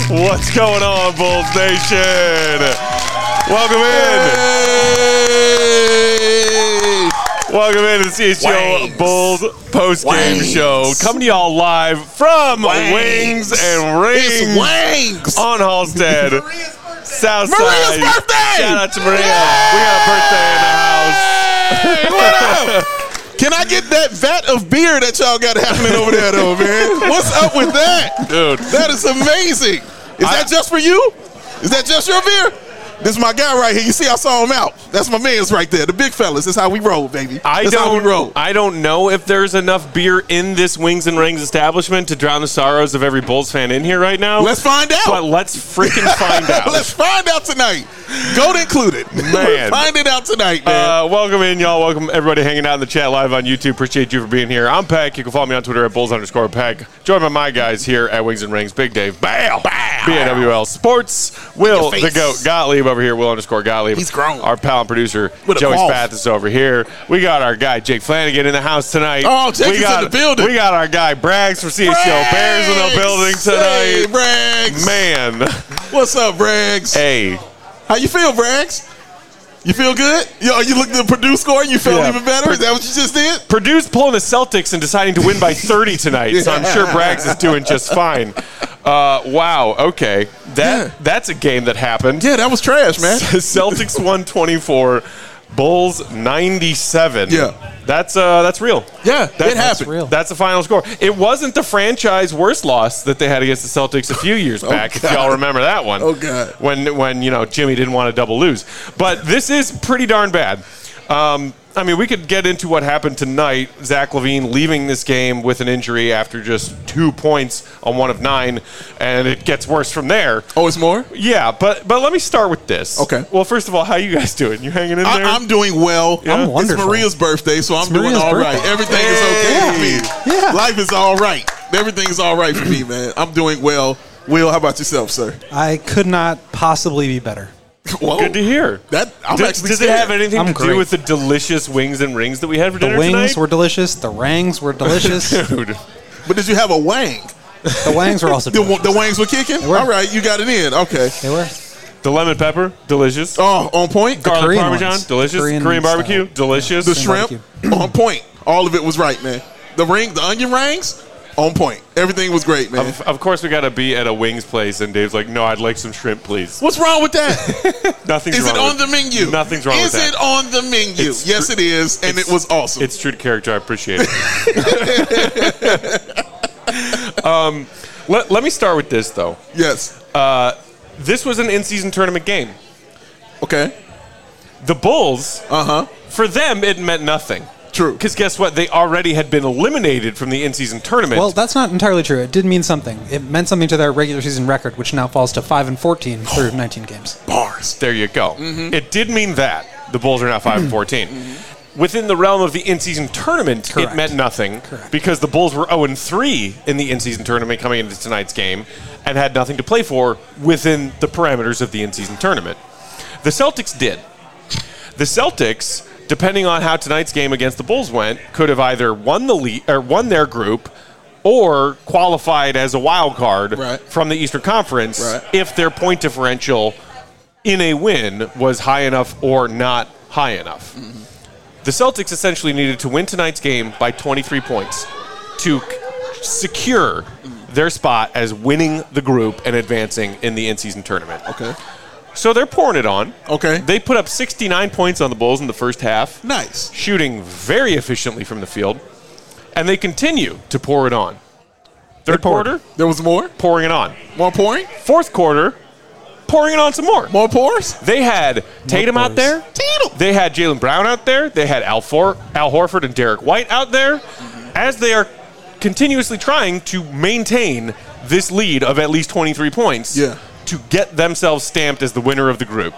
What's going on, Bulls Nation? Welcome in. Hey. Welcome in to the CHGO Bulls post-game show. Coming to y'all live from Wings and Rings. It's Wings. On Halstead. Southside. Maria's birthday. Shout out to Maria. We got a birthday in the house. Hey, what up? Can I get that vat of beer that y'all got happening over there, though, man? What's up with that? Dude. That is amazing. Is that just for you? Is that just your beer? This is my guy right here. You see, I saw him out. That's my man's right there. The big fellas. That's how we roll, baby. That's how we roll. I don't know if there's enough beer in this Wings and Rings establishment to drown the sorrows of every Bulls fan in here right now. Let's find out. But let's freaking find out. Let's find out tonight. Goat included. Man. Find it out tonight, man. Welcome in, y'all. Welcome everybody hanging out in the chat live on YouTube. Appreciate you for being here. I'm Peck. You can follow me on Twitter at Bulls_Peck. Joined by my guys here at Wings and Rings. Big Dave. Bow. BAWL Sports. Will the Goat Gottlieb over here. Will_Gottlieb. He's grown. Our pal and producer, With a Joey pulse. Spath, is over here. We got our guy, Jake Flanagan, in the house tonight. Oh, Jake is in the building. We got our guy, Braggs from CHGO Bears in the building Hey, tonight. Braggs. Man. What's up, Braggs? Hey. How you feel, Braggs? You feel good? Yo, you looked at the Purdue score and you felt even better? Is that what you just did? Purdue's pulling the Celtics and deciding to win by 30 tonight, so I'm sure Braggs is doing just fine. Wow, okay. That's a game that happened. Yeah, that was trash, man. Celtics 124, Bulls 97. Yeah. That's real. Yeah, it happened. Real. That's the final score. It wasn't the franchise worst loss that they had against the Celtics a few years back, if y'all remember that one. Oh, God. When Jimmy didn't want to double lose. But this is pretty darn bad. I mean, we could get into what happened tonight. Zach LaVine leaving this game with an injury after just 2 points on 1 of 9, and it gets worse from there. Oh, it's more? Yeah, but let me start with this. Okay. Well, first of all, how you guys doing? You hanging in there? I'm doing well. Yeah? I'm wonderful. It's Maria's birthday, so I'm doing Maria's all right. birthday. Everything is okay for me. Yeah. Life is all right. Everything is all right for me, man. I'm doing well. Will, how about yourself, sir? I could not possibly be better. Whoa. Good to hear. I'm actually Does it scared. have anything I'm to do great. with the delicious wings and rings that we had for The dinner wings tonight? were delicious. The rangs were delicious. Dude. But did you have a wang? The wangs were also The delicious. wangs were kicking? were. All right, you got it in. Okay. They were. The lemon pepper, delicious. Oh, on point? Garlic Korean parmesan, ones. delicious. Korean Korean barbecue, style. delicious. The Korean shrimp, on point. All of it was right, man. The onion rings, on point. Everything was great, man. Of course, we got to be at a wings place, and Dave's like, no, I'd like some shrimp, please. What's wrong with that? Nothing's Is wrong it on with the menu? Nothing's wrong with that. Is it on the menu? It's Yes, true. it is, and it was awesome. It's true to character. I appreciate it. Let me start with this, though. Yes. This was an in-season tournament game. Okay. The Bulls, Uh-huh. for them, it meant nothing. True. Because guess what? They already had been eliminated from the in-season tournament. Well, that's not entirely true. It did mean something. It meant something to their regular season record, which now falls to 5-14 through 19 games. Bars. There you go. Mm-hmm. It did mean that. The Bulls are now 5-14. Within the realm of the in-season tournament, Correct. it meant nothing Correct. because the Bulls were 0-3 in the in-season tournament coming into tonight's game and had nothing to play for within the parameters of the in-season tournament. The Celtics did. The Celtics, depending on how tonight's game against the Bulls went, could have either won the lead or won their group or qualified as a wild card Right. from the Eastern Conference Right. if their point differential in a win was high enough or not high enough. The Celtics essentially needed to win tonight's game by 23 points to secure their spot as winning the group and advancing in the in-season tournament. Okay. So they're pouring it on. Okay. They put up 69 points on the Bulls in the first half, Nice. shooting very efficiently from the field, and they continue to pour it on. Third quarter, There was more? pouring it on. More pouring? Fourth quarter, pouring it on some more. More pours? They had Tatum out pours. there. Tatum. They had Jaylen Brown out there. They had Al Horford and Derek White out there as they are continuously trying to maintain this lead of at least 23 points Yeah. to get themselves stamped as the winner of the group.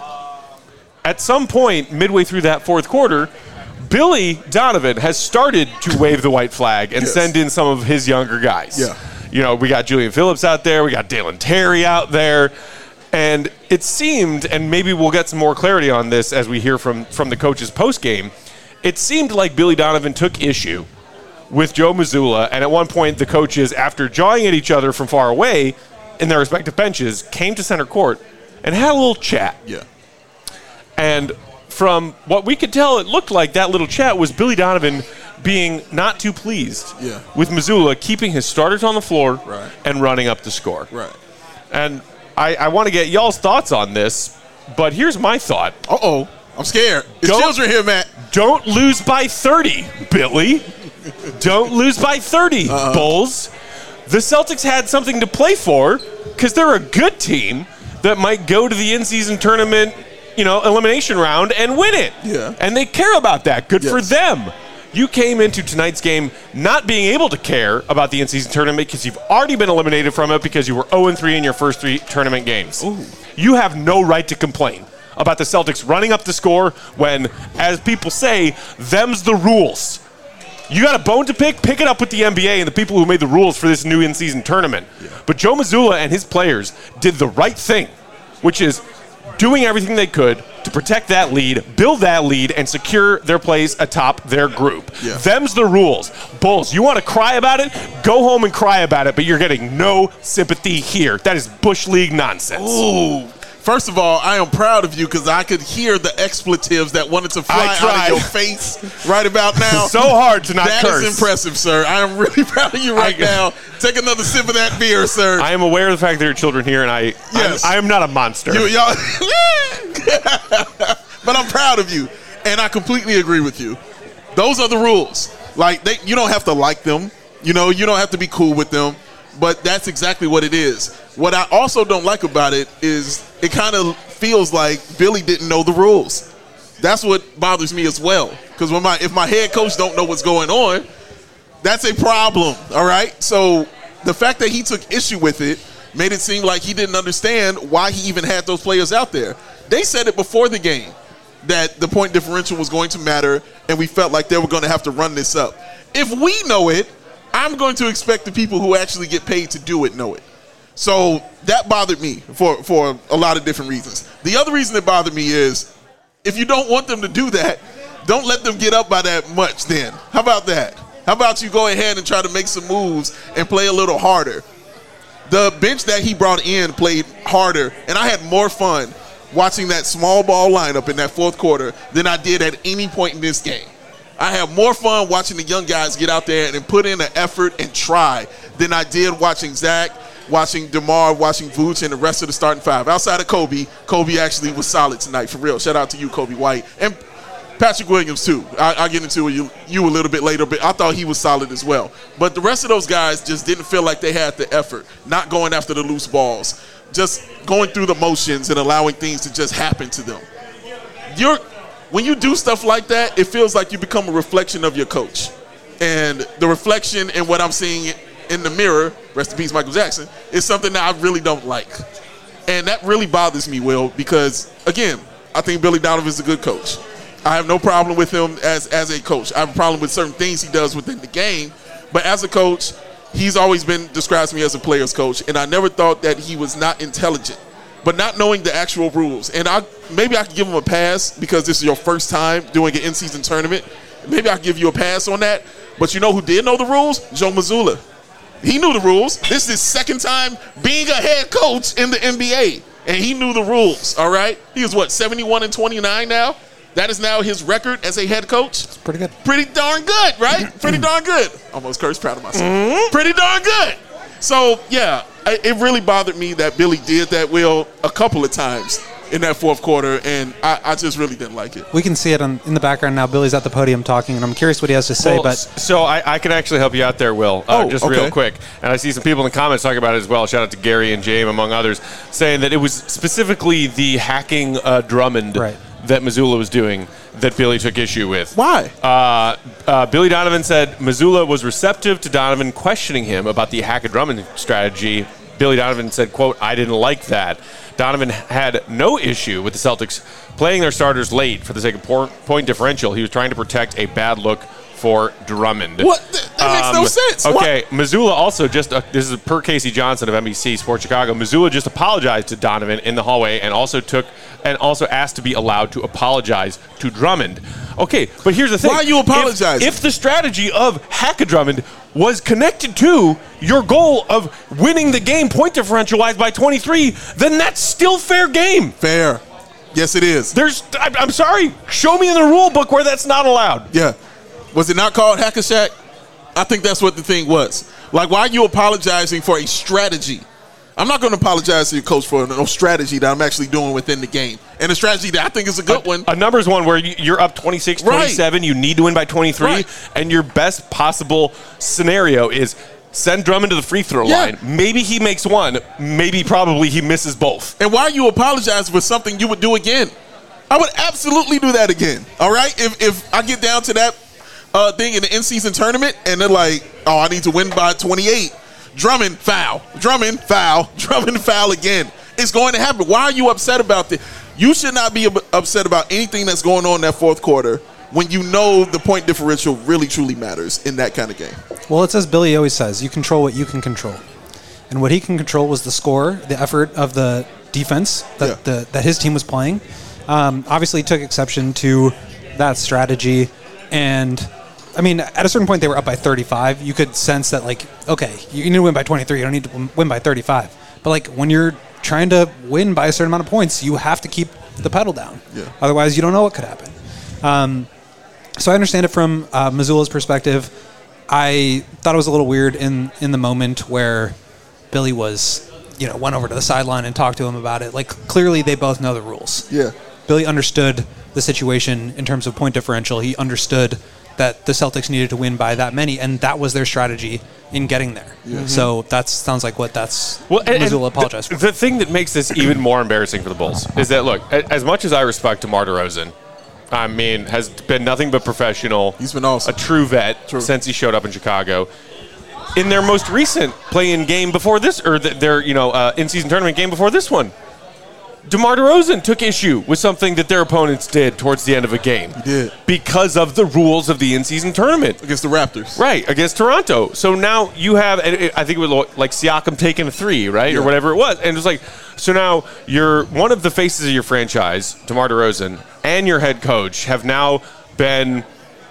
At some point, midway through that fourth quarter, Billy Donovan has started to wave the white flag and Yes. send in some of his younger guys. Yeah. You know, we got Julian Phillips out there. We got Dalen Terry out there. And it seemed, and maybe we'll get some more clarity on this as we hear from the coaches post-game, it seemed like Billy Donovan took issue with Joe Mazzulla. And at one point, the coaches, after jawing at each other from far away, in their respective benches, came to center court and had a little chat. Yeah. And from what we could tell, it looked like that little chat was Billy Donovan being not too pleased with Missoula keeping his starters on the floor and running up the score. Right. And I want to get y'all's thoughts on this, but here's my thought. Uh-oh. I'm scared. It's children here, Matt. Don't lose by 30, Billy. Don't lose by 30, Bulls. The Celtics had something to play for because they're a good team that might go to the in-season tournament, elimination round and win it. Yeah. And they care about that. Good for them. You came into tonight's game not being able to care about the in-season tournament because you've already been eliminated from it because you were 0-3 in your first 3 tournament games. Ooh. You have no right to complain about the Celtics running up the score when, as people say, them's the rules. You got a bone to pick it up with the NBA and the people who made the rules for this new in-season tournament. Yeah. But Joe Mazzulla and his players did the right thing, which is doing everything they could to protect that lead, build that lead, and secure their place atop their group. Yeah. Them's the rules. Bulls, you want to cry about it? Go home and cry about it, but you're getting no sympathy here. That is Bush League nonsense. Ooh. First of all, I am proud of you because I could hear the expletives that wanted to fly out of your face right about now. So hard to not curse. That is impressive, sir. I am really proud of you right now. Take another sip of that beer, sir. I am aware of the fact that there are children here, and I am not a monster. Y'all, but I'm proud of you, and I completely agree with you. Those are the rules. Like you don't have to like them. You don't have to be cool with them. But that's exactly what it is. What I also don't like about it is it kind of feels like Billy didn't know the rules. That's what bothers me as well. Because if my head coach don't know what's going on, that's a problem, all right? So the fact that he took issue with it made it seem like he didn't understand why he even had those players out there. They said it before the game that the point differential was going to matter, and we felt like they were going to have to run this up. If we know it, I'm going to expect the people who actually get paid to do it know it. So that bothered me for a lot of different reasons. The other reason it bothered me is if you don't want them to do that, don't let them get up by that much then. How about that? How about you go ahead and try to make some moves and play a little harder? The bench that he brought in played harder, and I had more fun watching that small ball lineup in that fourth quarter than I did at any point in this game. I have more fun watching the young guys get out there and put in an effort and try than I did watching Zach, watching DeMar, watching Vooch, and the rest of the starting five. Outside of Kobe actually was solid tonight, for real. Shout out to you, Kobe White. And Patrick Williams, too. I'll get into you a little bit later, but I thought he was solid as well. But the rest of those guys just didn't feel like they had the effort, not going after the loose balls, just going through the motions and allowing things to just happen to them. When you do stuff like that, it feels like you become a reflection of your coach. And the reflection in what I'm seeing in the mirror, rest in peace Michael Jackson, is something that I really don't like. And that really bothers me, Will, because, again, I think Billy Donovan is a good coach. I have no problem with him as a coach. I have a problem with certain things he does within the game. But as a coach, he's always been described to me as a player's coach. And I never thought that he was not intelligent. But not knowing the actual rules. And maybe I could give him a pass because this is your first time doing an in-season tournament. Maybe I could give you a pass on that. But you know who did know the rules? Joe Mazzulla. He knew the rules. This is his second time being a head coach in the NBA. And he knew the rules, all right? He is, 71-29 now? That is now his record as a head coach? It's pretty good. Pretty darn good, right? Pretty darn good. Almost cursed, proud of myself. Mm-hmm. Pretty darn good. So, yeah, it really bothered me that Billy did that, Will, a couple of times in that fourth quarter, and I just really didn't like it. We can see it in the background now. Billy's at the podium talking, and I'm curious what he has to say. So I can actually help you out there, Will, real quick. And I see some people in the comments talking about it as well. Shout out to Gary and James, among others, saying that it was specifically the hacking Drummond that Mazzulla was doing that Billy took issue with. Why? Billy Donovan said Mazzulla was receptive to Donovan questioning him about the hack a Drummond strategy. Billy Donovan said, quote, "I didn't like that." Donovan had no issue with the Celtics playing their starters late for the sake of point differential. He was trying to protect a bad look for Drummond. What? That makes no sense. Okay, Missoula also just, this is per Casey Johnson of NBC Sports Chicago, Missoula just apologized to Donovan in the hallway and also asked to be allowed to apologize to Drummond. Okay, but here's the thing. Why are you apologizing? If the strategy of Hack-a-Drummond was connected to your goal of winning the game point differential-wise by 23, then that's still fair game. Fair. Yes, it is. I'm sorry. Show me in the rule book where that's not allowed. Yeah. Was it not called Hack-a-Shack? I think that's what the thing was. Like, why are you apologizing for a strategy? I'm not going to apologize to your coach for no strategy that I'm actually doing within the game. And a strategy that I think is a good one. A numbers one where you're up 26, 27, you need to win by 23, and your best possible scenario is send Drummond to the free throw line. Maybe he makes one. Maybe probably he misses both. And why are you apologizing for something you would do again? I would absolutely do that again. All right? If I get down to that thing in the in-season tournament and they're like, oh, I need to win by 28. Drummond, foul. Drummond, foul. Drummond, foul again. It's going to happen. Why are you upset about this? You should not be upset about anything that's going on in that fourth quarter when you know the point differential really, truly matters in that kind of game. Well, it's as Billy always says, you control what you can control. And what he can control was the score, the effort of the defense that his team was playing. Obviously, he took exception to that strategy. And, I mean, at a certain point, they were up by 35. You could sense that, like, okay, you need to win by 23. You don't need to win by 35. But, like, when you're trying to win by a certain amount of points, you have to keep the pedal down. Yeah. Otherwise, you don't know what could happen. So I understand it from Missoula's perspective. I thought it was a little weird in the moment where Billy was, went over to the sideline and talked to him about it. Like, clearly they both know the rules. Yeah. Billy understood the situation in terms of point differential. He understood that the Celtics needed to win by that many, and that was their strategy in getting there. Yeah. So that sounds like what Missoula apologized for. The thing that makes this even more embarrassing for the Bulls is that, look, as much as I respect DeMar DeRozan, I mean, has been nothing but professional. He's been awesome. A true vet since he showed up in Chicago. In their most recent play-in game before this, or their in-season tournament game before this one, DeMar DeRozan took issue with something that their opponents did towards the end of a game. He did. Because of the rules of the in-season tournament. Against the Raptors. Right, against Toronto. So now you have, I think it was like Siakam taking a three, right? Yeah. Or whatever it was. And it was like, so now you're one of the faces of your franchise, DeMar DeRozan, and your head coach have now been,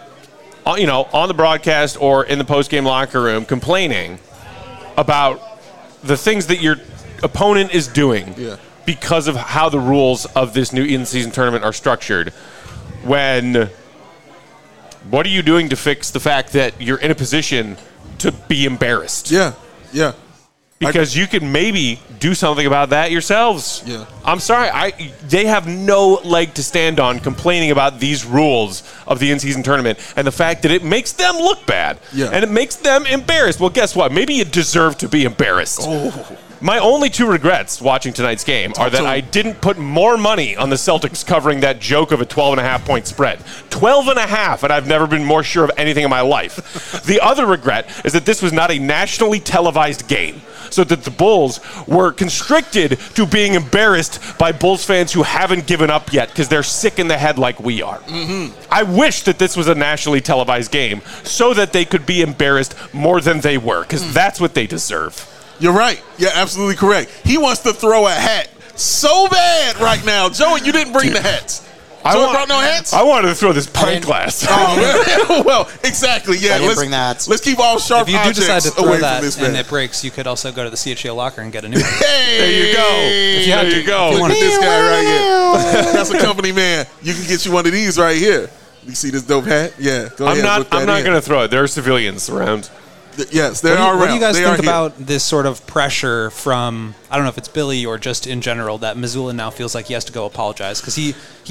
on the broadcast or in the post-game locker room complaining about the things that your opponent is doing. Yeah. Because of how the rules of this new in-season tournament are structured. What are you doing to fix the fact that you're in a position to be embarrassed? Yeah. Because you can maybe do something about that yourselves. Yeah. I'm sorry. They have no leg to stand on complaining about these rules of the in-season tournament and the fact that it makes them look bad. Yeah. And it makes them embarrassed. Well, guess what? Maybe you deserve to be embarrassed. Oh. My only two regrets watching tonight's game are that I didn't put more money on the Celtics covering that joke of a 12.5-point spread. 12.5, and I've never been more sure of anything in my life. The other regret is that this was not a nationally televised game, so that the Bulls were constricted to being embarrassed by Bulls fans who haven't given up yet because they're sick in the head like we are. Mm-hmm. I wish that this was a nationally televised game so that they could be embarrassed more than they were, because that's what they deserve. You're right. You're absolutely correct. He wants to throw a hat so bad right now. Joey, you didn't bring the hats. Joey brought no hats? I wanted to throw this pint glass. Oh, well, exactly. Yeah, I didn't bring the hats. Let's keep all sharp objects away from this man. If you do decide to throw that and it breaks, you could also go to the CHGO locker and get a new one. Hey! There you go. There you go. Look at this guy right here. That's a company man. You can get you one of these right here. You see this dope hat? Yeah. Go ahead. I'm not going to throw it. There are civilians around. Yes, they are around. What do you guys think about this sort of pressure from, I don't know if it's Billy or just in general, that Missoula now feels like he has to go apologize? Because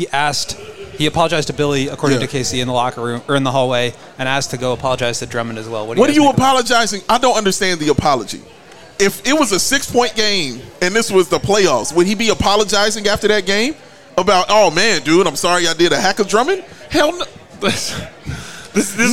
he apologized to Billy, according to Casey, in the locker room or in the hallway, and asked to go apologize to Drummond as well. What are you apologizing? I don't understand the apology. If it was a 6-point game and this was the playoffs, would he be apologizing after that game about, oh man, dude, I'm sorry I did a hack of Drummond? Hell no. This is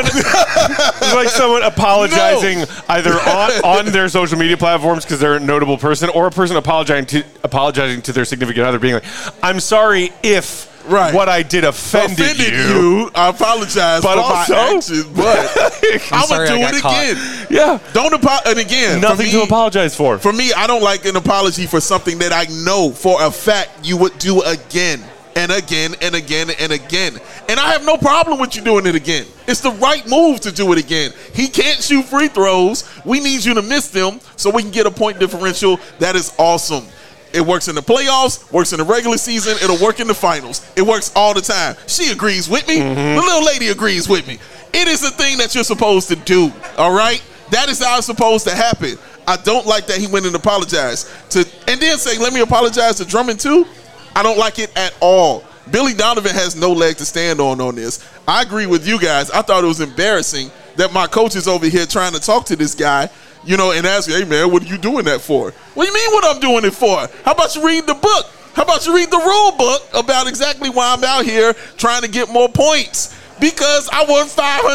like someone apologizing either on their social media platforms because they're a notable person, or a person apologizing to their significant other, being like, "I'm sorry if Right. what I did offended you. I apologize But for also- my actions, but I'm sorry going I to do got it caught. again. Yeah. Don't apologize. And again, Nothing to apologize for. For me, I don't like an apology for something that I know for a fact you would do again and again and again and again. And I have no problem with you doing it again. It's the right move to do it again. He can't shoot free throws. We need you to miss them so we can get a point differential. That is awesome. It works in the playoffs, works in the regular season. It'll work in the finals. It works all the time. She agrees with me. The little lady agrees with me. It is a thing that you're supposed to do, all right? That is how it's supposed to happen. I don't like that he went and apologized and then say, let me apologize to Drummond too. I don't like it at all. Billy Donovan has no leg to stand on this. I agree with you guys. I thought it was embarrassing that my coach is over here trying to talk to this guy, and ask, hey, man, what are you doing that for? What do you mean what I'm doing it for? How about you read the book? How about you read the rule book about exactly why I'm out here trying to get more points? Because I won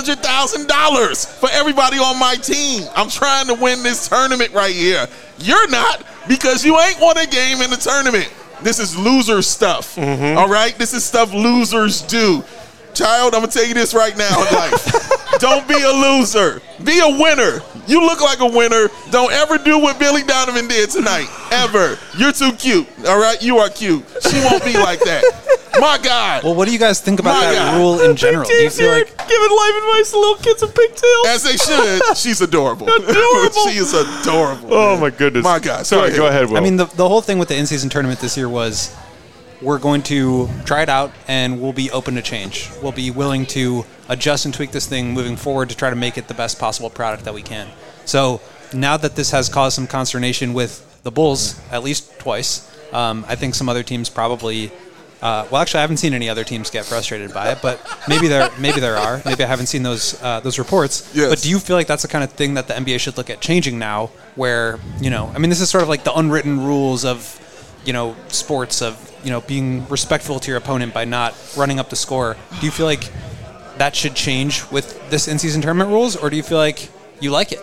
$500,000 for everybody on my team. I'm trying to win this tournament right here. You're not, because you ain't won a game in the tournament. This is loser stuff, all right? This is stuff losers do. Child, I'm going to tell you this right now in life. Don't be a loser. Be a winner. You look like a winner. Don't ever do what Billy Donovan did tonight, ever. You're too cute, all right? You are cute. She won't be like that. My God. Well, what do you guys think about My that God. rule in general? Do you feel like giving life advice to little kids with pigtails? As they should. She's adorable. Adorable. She is adorable. Oh man. my goodness. My God. Sorry, go ahead, Will. I mean, the whole thing with the in-season tournament this year was we're going to try it out and we'll be open to change. We'll be willing to adjust and tweak this thing moving forward to try to make it the best possible product that we can. So now that this has caused some consternation with the Bulls at least twice, I think some other teams probably well, actually, I haven't seen any other teams get frustrated by it, but maybe there are. Maybe I haven't seen those reports. Yes. But do you feel like that's the kind of thing that the NBA should look at changing now? Where I mean, this is sort of like the unwritten rules of sports of being respectful to your opponent by not running up the score. Do you feel like that should change with this in-season tournament rules, or do you feel like you like it?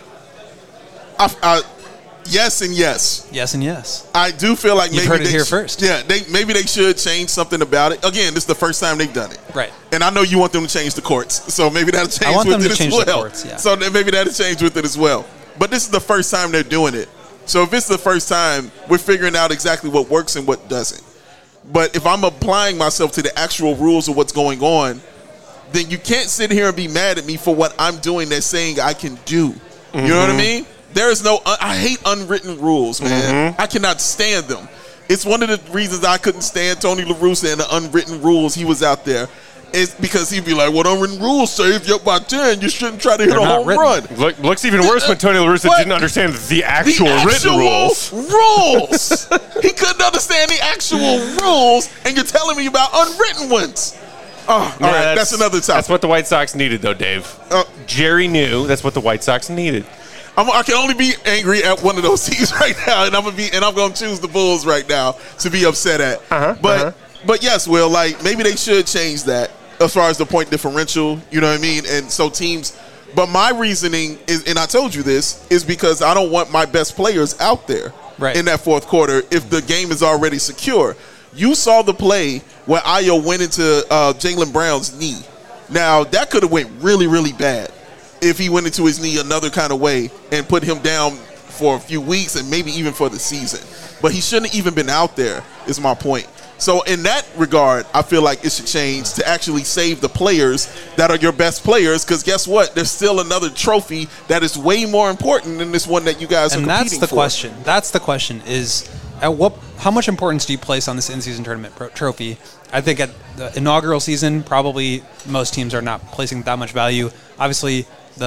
Yes and yes. Yes and yes. I do feel like You've maybe heard it they here first. Yeah, maybe they should change something about it. Again, this is the first time they've done it. Right. And I know you want them to change the courts, so maybe that'll change I want with them it to as change well. the courts, yeah. So then maybe that'll change with it as well. But this is the first time they're doing it. So if it's the first time, we're figuring out exactly what works and what doesn't. But if I'm applying myself to the actual rules of what's going on, then you can't sit here and be mad at me for what I'm doing that's saying I can do. You know what I mean? There is no, I hate unwritten rules, man. I cannot stand them. It's one of the reasons I couldn't stand Tony La Russa and the unwritten rules he was out there. It's because he'd be like, well, unwritten rules say if you're up by 10, you shouldn't try to hit a home run. Looks even worse when Tony La Russa What? didn't understand the actual written rules. rules. He couldn't understand the actual rules, and you're telling me about unwritten ones. Oh, all right, that's another topic. That's what the White Sox needed, though, Dave. Jerry knew that's what the White Sox needed. I can only be angry at one of those teams right now, and I'm gonna choose the Bulls right now to be upset at. But yes, Will, like maybe they should change that as far as the point differential. You know what I mean? And so teams. But my reasoning is, and I told you this, is because I don't want my best players out there in that fourth quarter if the game is already secure. You saw the play where Ayo went into Jaylen Brown's knee. Now that could have went really, really bad if he went into his knee another kind of way and put him down for a few weeks and maybe even for the season. But he shouldn't have even been out there, is my point. So in that regard, I feel like it should change to actually save the players that are your best players, because guess what? There's still another trophy that is way more important than this one that you guys are competing for. And that's the question. That's the question is, how much importance do you place on this in-season tournament trophy? I think at the inaugural season, probably most teams are not placing that much value. Obviously,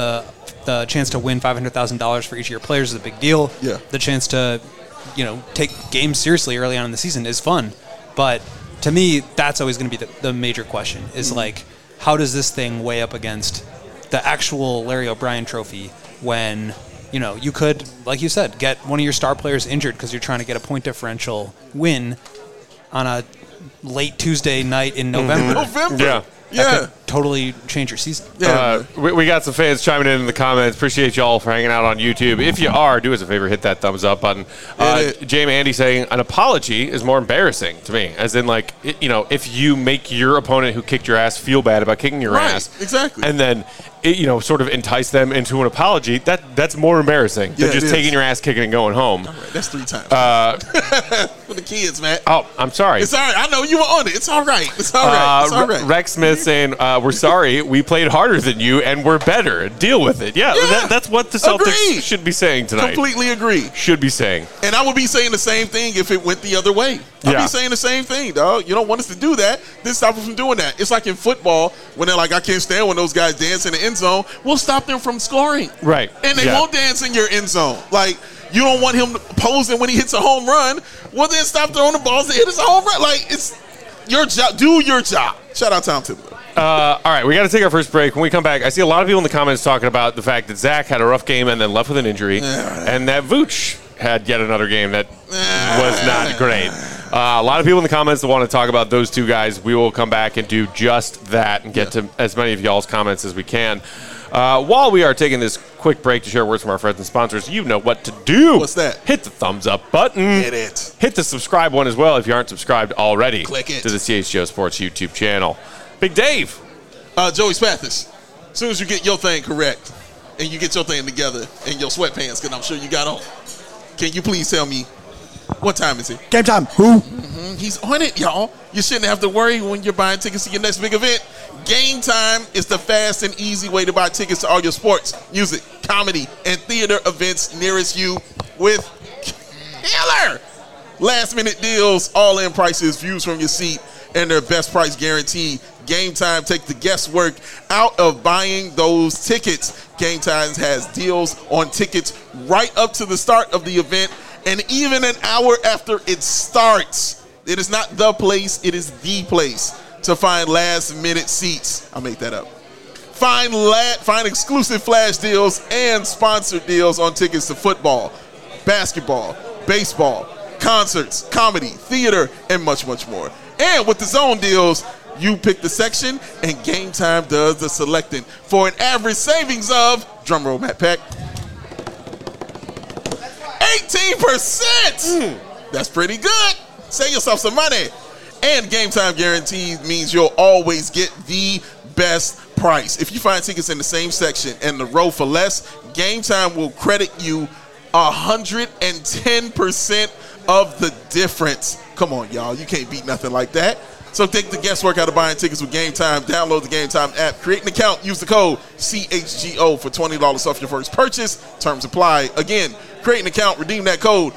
the chance to win $500,000 for each of your players is a big deal. Yeah. The chance to, take games seriously early on in the season is fun. But to me, that's always going to be the major question is like, how does this thing weigh up against the actual Larry O'Brien trophy when, you could, like you said, get one of your star players injured because you're trying to get a point differential win on a late Tuesday night in November. Yeah. That could totally change your season. Yeah. We got some fans chiming in the comments. Appreciate y'all for hanging out on YouTube. If you are, do us a favor, hit that thumbs up button. Jamie Andy saying an apology is more embarrassing to me, as in like if you make your opponent who kicked your ass feel bad about kicking your ass, exactly, and then sort of entice them into an apology. That's more embarrassing than just taking your ass kicking and going home. All right, that's 3 times for the kids, man. Oh, I'm sorry. It's all right. I know you were on it. It's all right. It's all right. It's all right. Rex Smith saying, we're sorry. We played harder than you, and we're better. Deal with it. Yeah, that's what the Celtics should be saying tonight. Completely agree. Should be saying. And I would be saying the same thing if it went the other way. I'd be saying the same thing, dog. You don't want us to do that. This stop us from doing that. It's like in football when they're like, I can't stand when those guys dance in the end zone. We'll stop them from scoring. Right. And they won't dance in your end zone. Like, you don't want him posing when he hits a home run. Well, then stop throwing the balls to hit his home run. Like, it's your job. Do your job. Shout out Tom Thibodeau. All right, we got to take our first break. When we come back, I see a lot of people in the comments talking about the fact that Zach had a rough game and then left with an injury, and that Vooch had yet another game that was not great. A lot of people in the comments that want to talk about those two guys. We will come back and do just that and get to as many of y'all's comments as we can. While we are taking this quick break to share words from our friends and sponsors, you know what to do. What's that? Hit the thumbs up button. Hit it. Hit the subscribe one as well if you aren't subscribed already. Click it. To the CHGO Sports YouTube channel. Big Dave. Joey Spathis. As soon as you get your thing correct and you get your thing together in your sweatpants, because I'm sure you got on, can you please tell me what time is it? Game time. Who? He's on it, y'all. You shouldn't have to worry when you're buying tickets to your next big event. Game Time is the fast and easy way to buy tickets to all your sports, music, comedy, and theater events nearest you with killer last-minute deals, all-in prices, views from your seat, and their best price guarantee. Game Time takes the guesswork out of buying those tickets. Game Time has deals on tickets right up to the start of the event and even an hour after it starts. It is not the place, it is the place to find last-minute seats. I'll make that up. Find exclusive flash deals and sponsored deals on tickets to football, basketball, baseball, concerts, comedy, theater, and much, much more. And with the zone deals, you pick the section, and Game Time does the selecting for an average savings of, drumroll, Matt Peck, 18%. That's pretty good. Save yourself some money. And Game Time guarantee means you'll always get the best price. If you find tickets in the same section and the row for less, Game Time will credit you 110% of the difference. Come on, y'all. You can't beat nothing like that. So take the guesswork out of buying tickets with Game Time. Download the Game Time app. Create an account. Use the code CHGO for $20 off your first purchase. Terms apply. Again, create an account. Redeem that code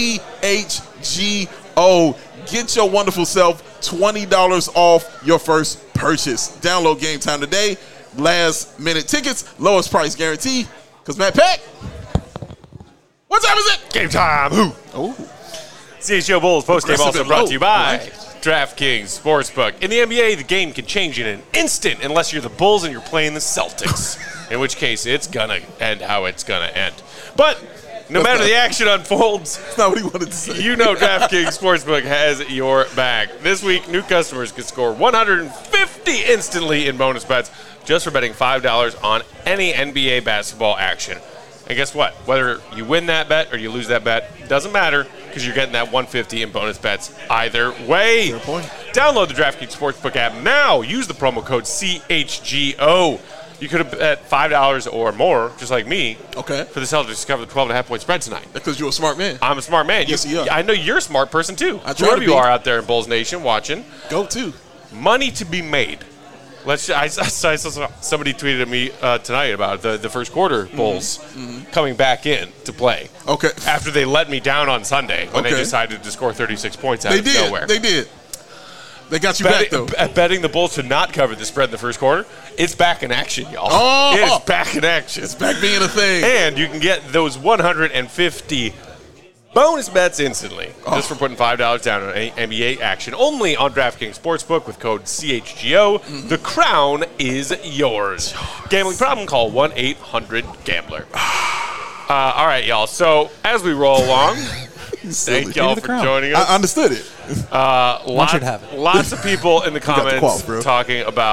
CHGO. Get your wonderful self $20 off your first purchase. Download Game Time today. Last minute tickets. Lowest price guarantee. Because Matt Peck, what time is it? Game Time. Who? Oh. CHGO Bulls postgame also brought to you by Like it. DraftKings Sportsbook. In the NBA, the game can change in an instant unless you're the Bulls and you're playing the Celtics, in which case it's going to end how it's going to end. But no matter the action unfolds, That's not what he wanted to say. you know DraftKings Sportsbook has your back. This week, new customers can score $150 instantly in bonus bets just for betting $5 on any NBA basketball action. And guess what? Whether you win that bet or you lose that bet, doesn't matter because you're getting that $150 in bonus bets either way. Fair point. Download the DraftKings Sportsbook app now. Use the promo code CHGO. You could have bet $5 or more, just like me, Okay. for the Celtics to cover the 12.5-point spread tonight. Because you're a smart man. I'm a smart man. Yes, you are. I know you're a smart person, too. I try Whoever to you be. are out there in Bulls Nation watching. Go to. Money to be made. I saw somebody tweeted at me tonight about the first quarter Bulls coming back in to play. Okay. After they let me down on Sunday when they Okay. decided to score 36 points out They of did. nowhere. They did. They got you back, though. Betting the Bulls to not cover the spread in the first quarter, it's back in action, y'all. Oh! It is back in action. It's back being a thing. And you can get those 150 bonus bets instantly just for putting $5 down on any NBA action only on DraftKings Sportsbook with code CHGO. The crown is yours. Gambling problem? Call 1-800-GAMBLER. All right, y'all. So as we roll along, thank y'all for joining us. I understood it. One should have it. Lots of people in the got the comments quote, bro. talking about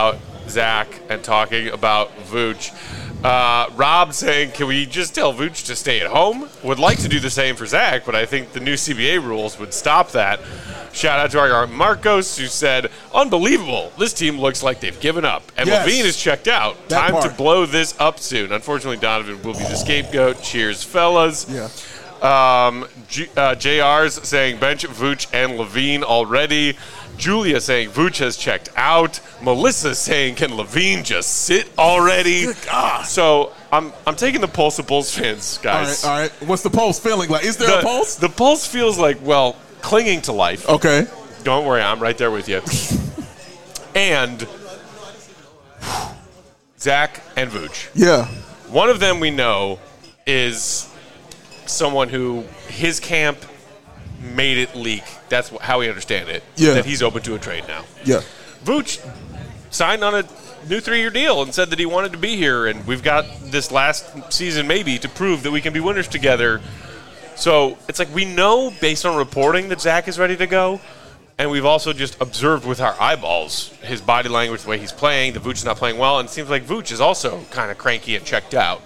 Zach and talking about Vooch. Rob saying, can we just tell Vooch to stay at home? Would like to do the same for Zach, but I think the new CBA rules would stop that. Shout out to our Marcos, who said, unbelievable. This team looks like they've given up. And Yes. Levine is checked out. That Time to part. blow this up soon. Unfortunately, Donovan will be the scapegoat. Cheers, fellas. Yeah. JR's saying bench Vooch and Levine already. Julia saying Vooch has checked out. Melissa saying, can Levine just sit already? Good God. So I'm taking the pulse of Bulls fans, guys. All right. What's the pulse feeling like? Is there a pulse? The pulse feels like, well, clinging to life. Okay. Don't worry, I'm right there with you. And Zach and Vooch. Yeah. One of them we know is someone who his camp made it leak. That's how we understand it. Yeah. That he's open to a trade now. Yeah. Vooch signed on a new 3-year deal and said that he wanted to be here, and we've got this last season maybe to prove that we can be winners together. So it's like we know based on reporting that Zach is ready to go, and we've also just observed with our eyeballs his body language, the way he's playing, the Vooch is not playing well, and it seems like Vooch is also kind of cranky and checked out.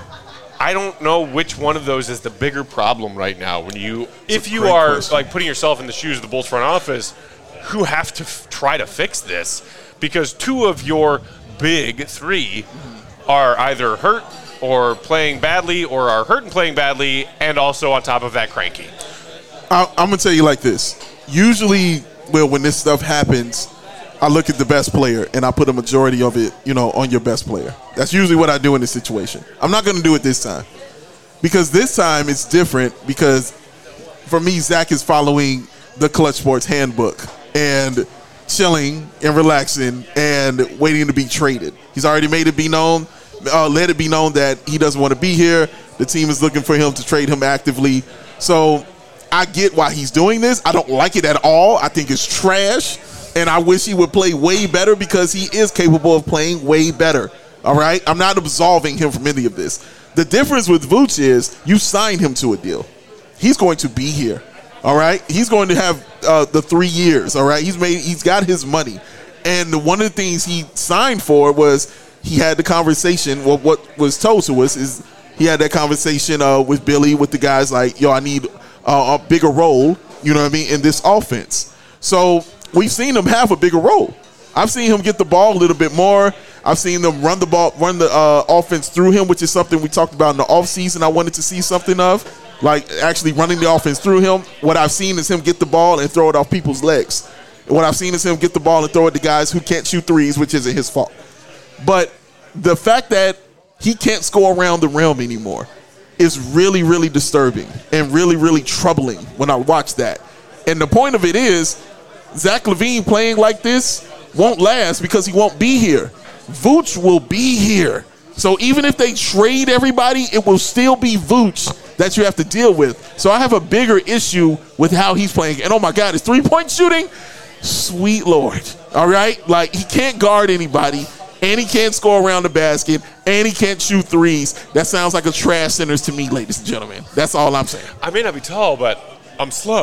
I don't know which one of those is the bigger problem right now. If you are like putting yourself in the shoes of the Bulls front office, who have to try to fix this, because two of your big three are either hurt or playing badly, or are hurt and playing badly, and also on top of that cranky. I'm going to tell you like this. Usually, when this stuff happens, I look at the best player and I put a majority of it, on your best player. That's usually what I do in this situation. I'm not going to do it this time. Because this time it's different because for me, Zach is following the Clutch Sports handbook and chilling and relaxing and waiting to be traded. He's already made it be known, let it be known that he doesn't want to be here. The team is looking for him to trade him actively. So I get why he's doing this. I don't like it at all. I think it's trash. And I wish he would play way better because he is capable of playing way better. All right? I'm not absolving him from any of this. The difference with Vooch is you signed him to a deal. He's going to be here. All right? He's going to have the 3 years. All right? He's got his money. And one of the things he signed for was he had the conversation. Well, what was told to us is he had that conversation with Billy, with the guys like, I need a bigger role, in this offense. So we've seen him have a bigger role. I've seen him get the ball a little bit more. I've seen them run the offense through him, which is something we talked about in the offseason. I wanted to see something of, like actually running the offense through him. What I've seen is him get the ball and throw it off people's legs. What I've seen is him get the ball and throw it to guys who can't shoot threes, which isn't his fault. But the fact that he can't score around the rim anymore is really, really disturbing and really, really troubling when I watch that. And the point of it is, Zach LaVine playing like this won't last because he won't be here. Vooch will be here. So even if they trade everybody, it will still be Vooch that you have to deal with. So I have a bigger issue with how he's playing. And oh my God, his three-point shooting, sweet Lord. All right? Like, he can't guard anybody, and he can't score around the basket, and he can't shoot threes. That sounds like a trash centers to me, ladies and gentlemen. That's all I'm saying. I may not be tall, but I'm slow.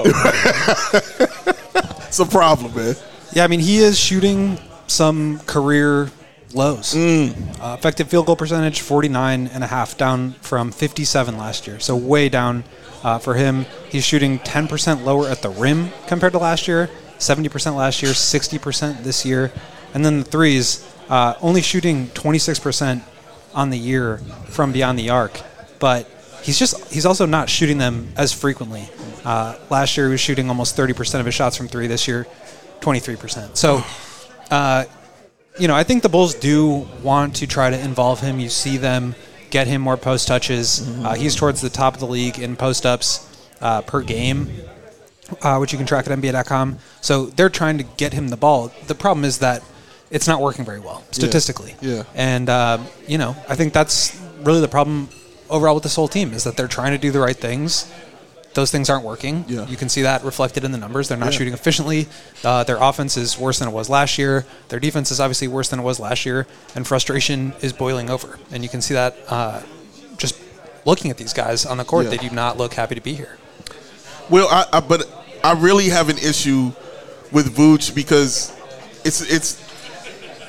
It's a problem, man. Yeah, I mean, he is shooting some career lows. Effective field goal percentage, 49.5, down from 57 last year. So way down for him. He's shooting 10% lower at the rim compared to last year, 70% last year, 60% this year. And then the threes, only shooting 26% on the year from beyond the arc. But he's also not shooting them as frequently. Last year he was shooting almost 30% of his shots from three. This year, 23%. So, I think the Bulls do want to try to involve him. You see them get him more post touches. He's towards the top of the league in post ups per game, which you can track at NBA.com. So they're trying to get him the ball. The problem is that it's not working very well statistically. Yeah. And, I think that's really the problem overall with this whole team is that they're trying to do the right things. Those things aren't working. Yeah. You can see that reflected in the numbers. They're not shooting efficiently. Their offense is worse than it was last year. Their defense is obviously worse than it was last year. And frustration is boiling over. And you can see that just looking at these guys on the court. They do not look happy to be here. Well, but I really have an issue with Vooch because it's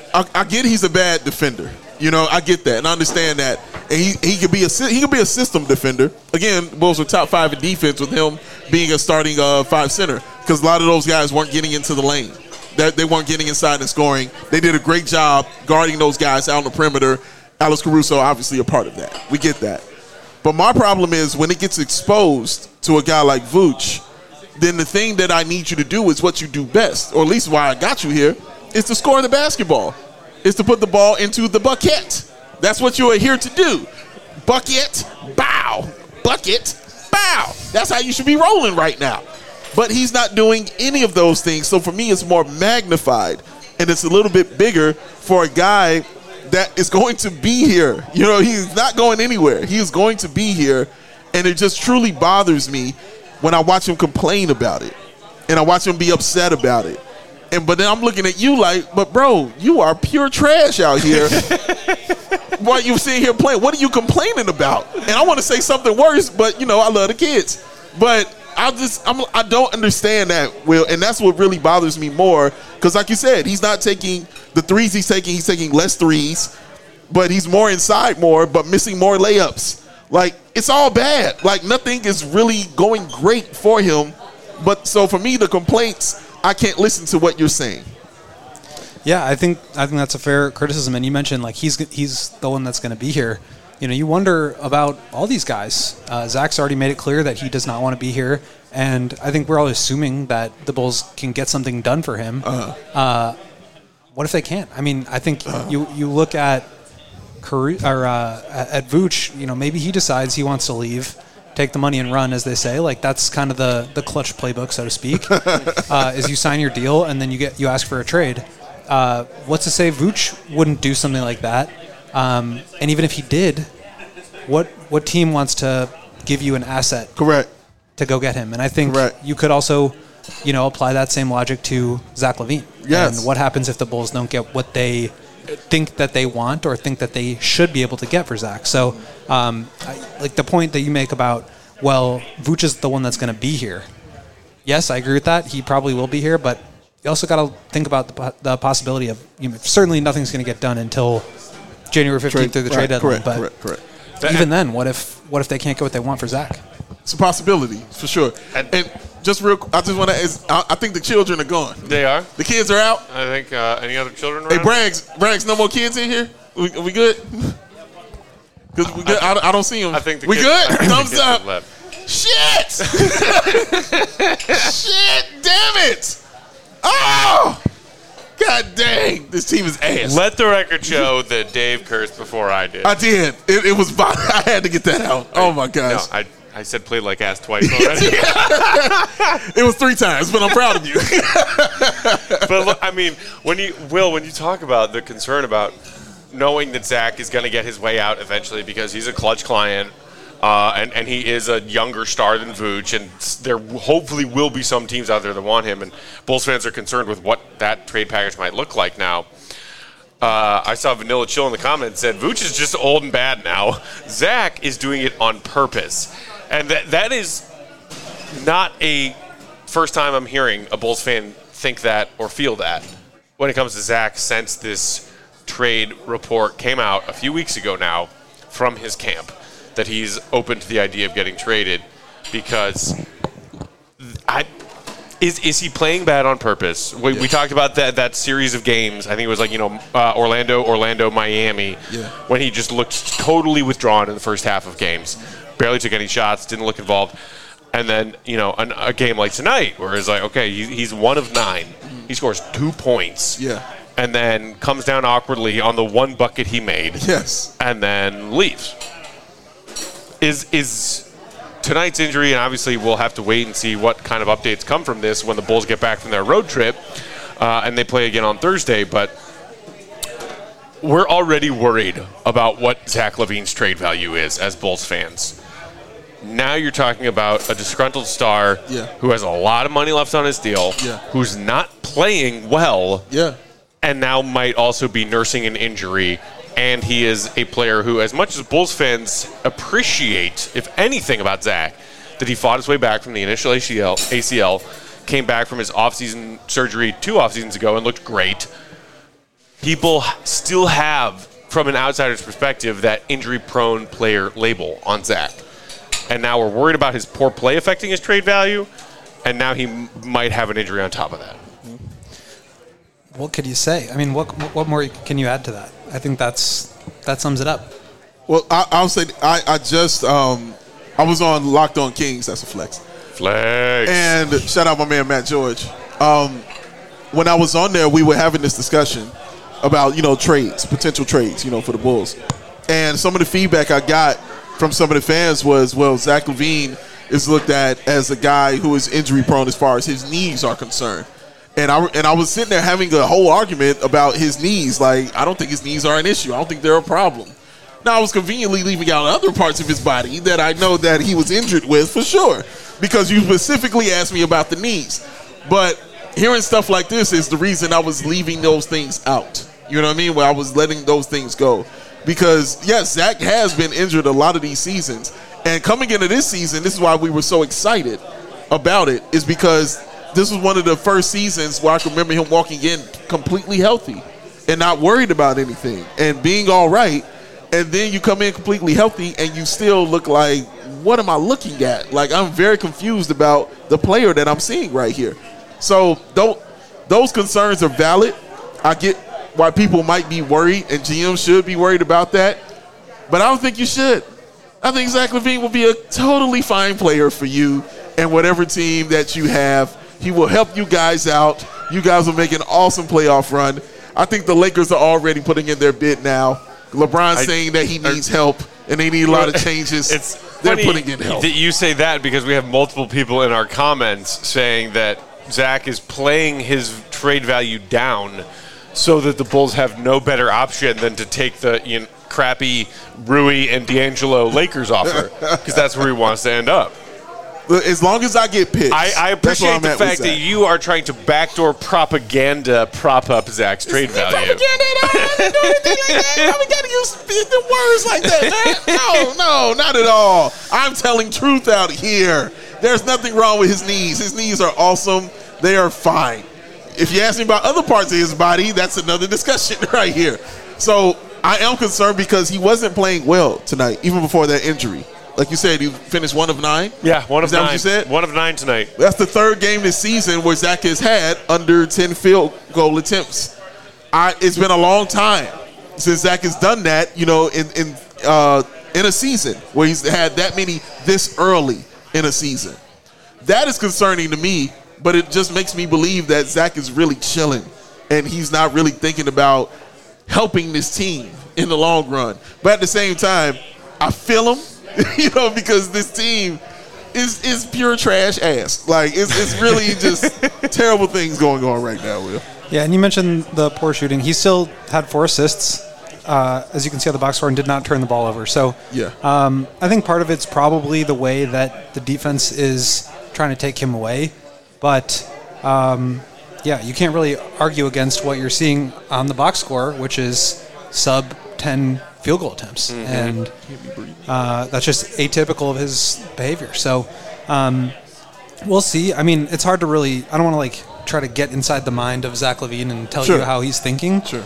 I get he's a bad defender. You know, I get that and I understand that. And he could be a system defender. Again, Bulls were top 5 in defense with him being a starting 5 center because a lot of those guys weren't getting into the lane. They weren't getting inside and scoring. They did a great job guarding those guys out on the perimeter. Alex Caruso, obviously a part of that. We get that. But my problem is when it gets exposed to a guy like Vooch, then the thing that I need you to do is what you do best, or at least why I got you here, is to score the basketball. Is to put the ball into the bucket. That's what you are here to do. Bucket, bow. Bucket, bow. That's how you should be rolling right now. But he's not doing any of those things. So for me, it's more magnified. And it's a little bit bigger for a guy that is going to be here. You know, he's not going anywhere. He is going to be here. And it just truly bothers me when I watch him complain about it. And I watch him be upset about it. But then I'm looking at you like, but bro, you are pure trash out here. While you sitting here playing, what are you complaining about? And I want to say something worse, but you know, I love the kids. But I don't understand that, Will, and that's what really bothers me more. Because like you said, he's not taking the threes he's taking less threes, but he's more inside more, but missing more layups. Like, it's all bad. Like, nothing is really going great for him. But so for me, the complaints, I can't listen to what you're saying. Yeah, I think that's a fair criticism. And you mentioned like he's the one that's going to be here. You know, you wonder about all these guys. Zach's already made it clear that he does not want to be here, and I think we're all assuming that the Bulls can get something done for him. What if they can't? I mean, I think you look at at Vooch. You know, maybe he decides he wants to leave, take the money and run, as they say. Like that's kind of the clutch playbook, so to speak. Is you sign your deal and then you ask for a trade. What's to say Vooch wouldn't do something like that? And even if he did, what team wants to give you an asset? Correct. To go get him? And I think you could also, you know, apply that same logic to Zach LaVine. Yes. And what happens if the Bulls don't get what they think that they want or think that they should be able to get for Zach? So, like the point that you make about, well, Vooch is the one that's going to be here. Yes, I agree with that. He probably will be here, but you also got to think about the possibility of, you know, certainly nothing's going to get done until January 15th through the trade deadline. Correct. Even then, what if they can't get what they want for Zach? It's a possibility for sure. And just real, I just want to. I think the children are gone. They are. The kids are out. I think any other children around? Hey, Braggs, no more kids in here. We good? Because we good. I don't see them. I think we good. Thumbs kids up. left. Shit! Shit! Damn it! Oh! God dang! This team is ass. Let the record show that Dave cursed before I did. I did. It was. I had to get that out. Oh my gosh! No, I said played like ass twice already. It was 3 times, but I'm proud of you. But look, I mean, when you talk about the concern about knowing that Zach is going to get his way out eventually because he's a clutch client, and he is a younger star than Vooch, and there hopefully will be some teams out there that want him, and Bulls fans are concerned with what that trade package might look like now. I saw Vanilla Chill in the comments said, Vooch is just old and bad now. Zach is doing it on purpose. And that is not a first time I'm hearing a Bulls fan think that or feel that when it comes to Zach since this trade report came out a few weeks ago now from his camp that he's open to the idea of getting traded because is he playing bad on purpose? We talked about that series of games. I think it was like, Orlando, Miami, when he just looked totally withdrawn in the first half of games. Barely took any shots, didn't look involved. And then, a game like tonight where it's like, okay, he's 1 of 9. He scores 2 points. Yeah. And then comes down awkwardly on the 1 bucket he made. Yes. And then leaves. Is tonight's injury, and obviously we'll have to wait and see what kind of updates come from this when the Bulls get back from their road trip and they play again on Thursday, but we're already worried about what Zach LaVine's trade value is as Bulls fans. Now you're talking about a disgruntled star who has a lot of money left on his deal, who's not playing well, and now might also be nursing an injury. And he is a player who, as much as Bulls fans appreciate, if anything, about Zach, that he fought his way back from the initial ACL, came back from his offseason surgery 2 off seasons ago and looked great. people still have, from an outsider's perspective, that injury-prone player label on Zach. And now we're worried about his poor play affecting his trade value, and now he might have an injury on top of that. What could you say? I mean, what more can you add to that? I think that sums it up. Well, I'll say I was on Locked On Kings. That's a flex. Flex. And shout out my man Matt George. When I was on there, we were having this discussion about trades, potential trades, for the Bulls. And some of the feedback I got from some of the fans was, well, Zach LaVine is looked at as a guy who is injury prone as far as his knees are concerned. And I was sitting there having a whole argument about his knees. Like, I don't think his knees are an issue. I don't think they're a problem. Now, I was conveniently leaving out other parts of his body that I know that he was injured with for sure, because you specifically asked me about the knees. But hearing stuff like this is the reason I was leaving those things out. You know what I mean? Where I was letting those things go. Because, yes, Zach has been injured a lot of these seasons. And coming into this season, this is why we were so excited about it, is because this was one of the first seasons where I can remember him walking in completely healthy and not worried about anything and being all right. And then you come in completely healthy and you still look like, what am I looking at? Like, I'm very confused about the player that I'm seeing right here. So those concerns are valid. I get why people might be worried, and GM should be worried about that. But I don't think you should. I think Zach LaVine will be a totally fine player for you and whatever team that you have. He will help you guys out. You guys will make an awesome playoff run. I think the Lakers are already putting in their bid now. LeBron's saying that he needs help, and they need a lot of changes. They're putting in help. That you say that because we have multiple people in our comments saying that Zach is playing his trade value down so that the Bulls have no better option than to take the crappy Rui and D'Angelo Lakers offer, because that's where he wants to end up. As long as I get picks. I appreciate the fact that you are trying to backdoor propaganda prop up Zach's trade value. Propaganda at all. I didn't do anything like that. We got to use the words like that, man. No, not at all. I'm telling truth out here. There's nothing wrong with his knees. His knees are awesome. They are fine. If you ask me about other parts of his body, that's another discussion right here. So I am concerned because he wasn't playing well tonight, even before that injury. Like you said, he finished 1 of 9? Yeah, 1 of 9. Is that what you said? 1 of 9 tonight. That's the third game this season where Zach has had under 10 field goal attempts. It's been a long time since Zach has done that, in a season where he's had that many this early in a season. That is concerning to me, but it just makes me believe that Zach is really chilling and he's not really thinking about helping this team in the long run. But at the same time, I feel him. Because this team is pure trash ass. Like, it's really just terrible things going on right now, Will. Yeah, and you mentioned the poor shooting. He still had 4 assists, as you can see on the box score, and did not turn the ball over. So yeah, I think part of it's probably the way that the defense is trying to take him away. But, you can't really argue against what you're seeing on the box score, which is sub 10 field goal attempts, and that's just atypical of his behavior. So we'll see. I mean, it's hard to really – I don't want to, try to get inside the mind of Zach LaVine and tell you how he's thinking. Sure.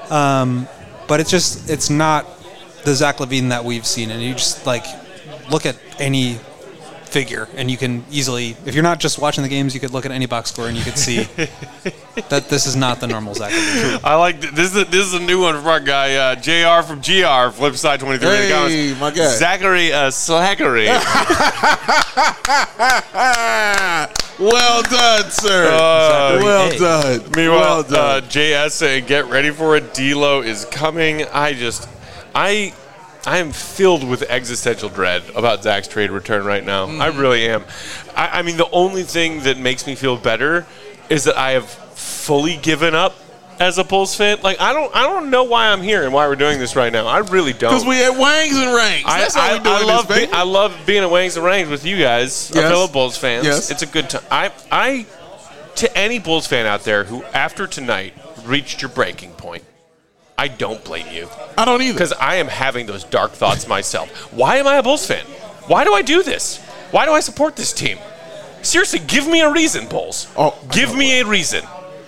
But it's not the Zach LaVine that we've seen. And you just, look at any figure, and you can easily – if you're not just watching the games, you could look at any box score and you could see that this is not the normal Zach LaVine. I like this is a new one from our guy JR from GR, Flipside 23 in the comments. Hey, my guy. Zachary Slackery. Well done, sir. Well done. Meanwhile, JS saying, get ready for it. D-Lo is coming. I am filled with existential dread about Zach's trade return right now. I really am. I mean, the only thing that makes me feel better is that I have fully given up as a Bulls fan. I don't know why I'm here and why we're doing this right now. I really don't. Because we at Wangs and Ranks. That's how we doing this, baby. I love being at Wangs and Ranks with you guys, fellow Bulls fans. Yes. It's a good time. To any Bulls fan out there who, after tonight, reached your breaking point, I don't blame you. I don't either. Because I am having those dark thoughts myself. Why am I a Bulls fan? Why do I do this? Why do I support this team? Seriously, give me a reason, Bulls. Give me a reason.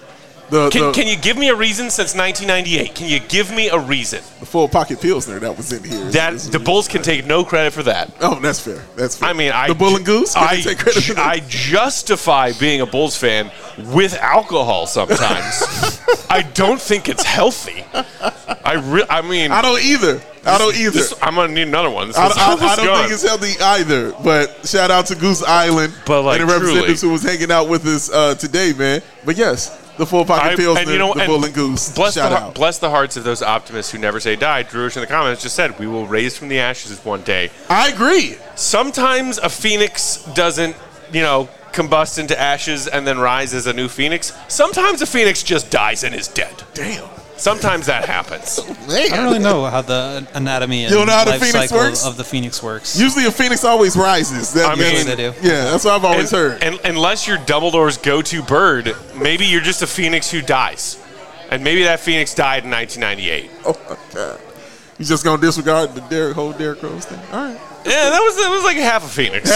Can you give me a reason since 1998? Can you give me a reason? The full pocket Pilsner that was in here. The Bulls can take no credit for that. Oh, that's fair. That's fair. I mean, the Bull and Goose. Can they take credit for that? I justify being a Bulls fan with alcohol sometimes. I don't think it's healthy. I mean, I don't either. I'm gonna need another one. I don't think it's healthy either. But shout out to Goose Island and the representatives who was hanging out with us today, man. But yes, the full pocket Pilsner, the Bull and Goose. Bless the hearts of those optimists who never say die. Drew in the comments just said, "We will raise from the ashes one day." I agree. Sometimes a phoenix doesn't, combust into ashes and then rise as a new phoenix. Sometimes a phoenix just dies and is dead. Damn. Sometimes that happens. I don't really know how the anatomy and life cycle of the phoenix works. Usually a phoenix always rises. They do. Yeah, that's what I've always heard. And unless you're Dumbledore's go-to bird, maybe you're just a phoenix who dies. And maybe that phoenix died in 1998. Oh, my God. You just going to disregard the whole Derrick Rose thing? All right. Yeah, that was like half a phoenix.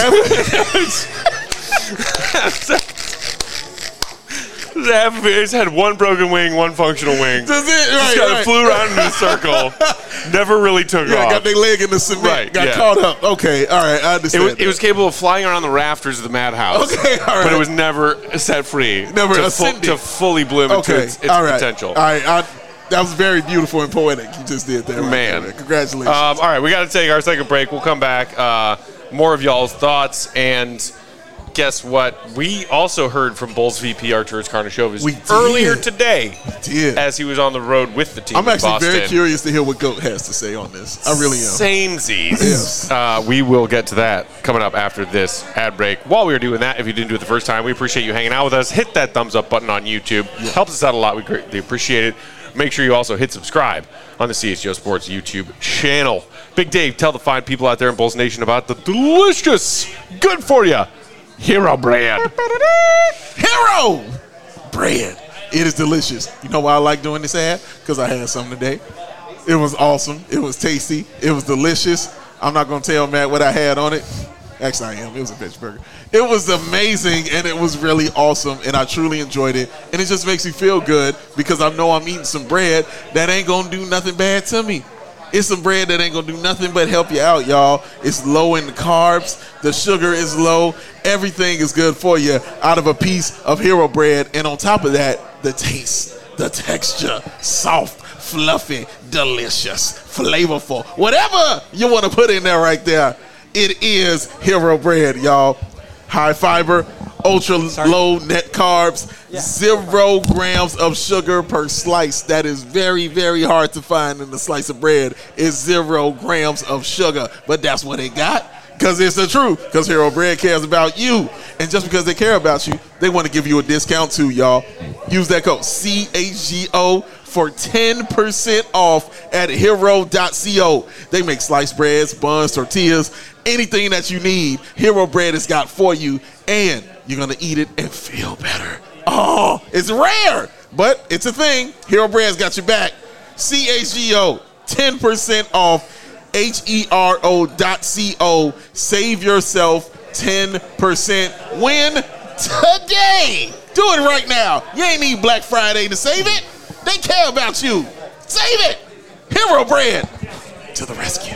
It's had one broken wing, one functional wing. That's it, right? Just flew around in a circle. Never really took off. Got their leg in the cement. Right, got caught up. Okay, all right, I understand. It was capable of flying around the rafters of the madhouse. Okay, all right. But it was never set free. Never ascended. To fully bloom into its potential. All right, that was very beautiful and poetic. You just did that. Man. Right, congratulations. All right, we got to take our second break. We'll come back. More of y'all's thoughts. And guess what? We also heard from Bulls VP Arturas Karnisovas earlier today as he was on the road with the team I'm actually Boston. very curious to hear what GOAT has to say on this. I really am. Samesies. Yes. We will get to that coming up after this ad break. While we were doing that, if you didn't do it the first time, we appreciate you hanging out with us. Hit that thumbs up button on YouTube. Yeah. Helps us out a lot. We greatly appreciate it. Make sure you also hit subscribe on the CHGO Sports YouTube channel. Big Dave, tell the fine people out there in Bulls Nation about the delicious, good for you Hero Bread. Hero Bread. It is delicious. You know why I like doing this ad? Because I had some today. It was awesome. It was tasty. It was delicious. I'm not going to tell Matt what I had on it. Actually, I am. It was a veg burger. It was amazing, and it was really awesome, and I truly enjoyed it. And it just makes me feel good because I know I'm eating some bread that ain't going to do nothing bad to me. It's some bread that ain't going to do nothing but help you out, y'all. It's low in the carbs. The sugar is low. Everything is good for you out of a piece of Hero Bread. And on top of that, the taste, the texture, soft, fluffy, delicious, flavorful. Whatever you want to put in there right there, it is Hero Bread, y'all. High fiber, ultra low net carbs, 0 grams of sugar per slice. That is very, very hard to find in a slice of bread. It's 0 grams of sugar, but that's what they got because it's the truth. Because Hero Bread cares about you, and just because they care about you, they want to give you a discount too, y'all. Use that code CHGO for 10% off at hero.co. They make sliced breads, buns, tortillas, anything that you need. Hero Bread has got for you, and you're going to eat it and feel better. Oh, it's rare, but it's a thing. Hero Bread's got your back. CHGO, 10% off, hero.co. Save yourself 10%. Win today. Do it right now. You ain't need Black Friday to save it. They care about you. Save it. Hero Bread to the rescue.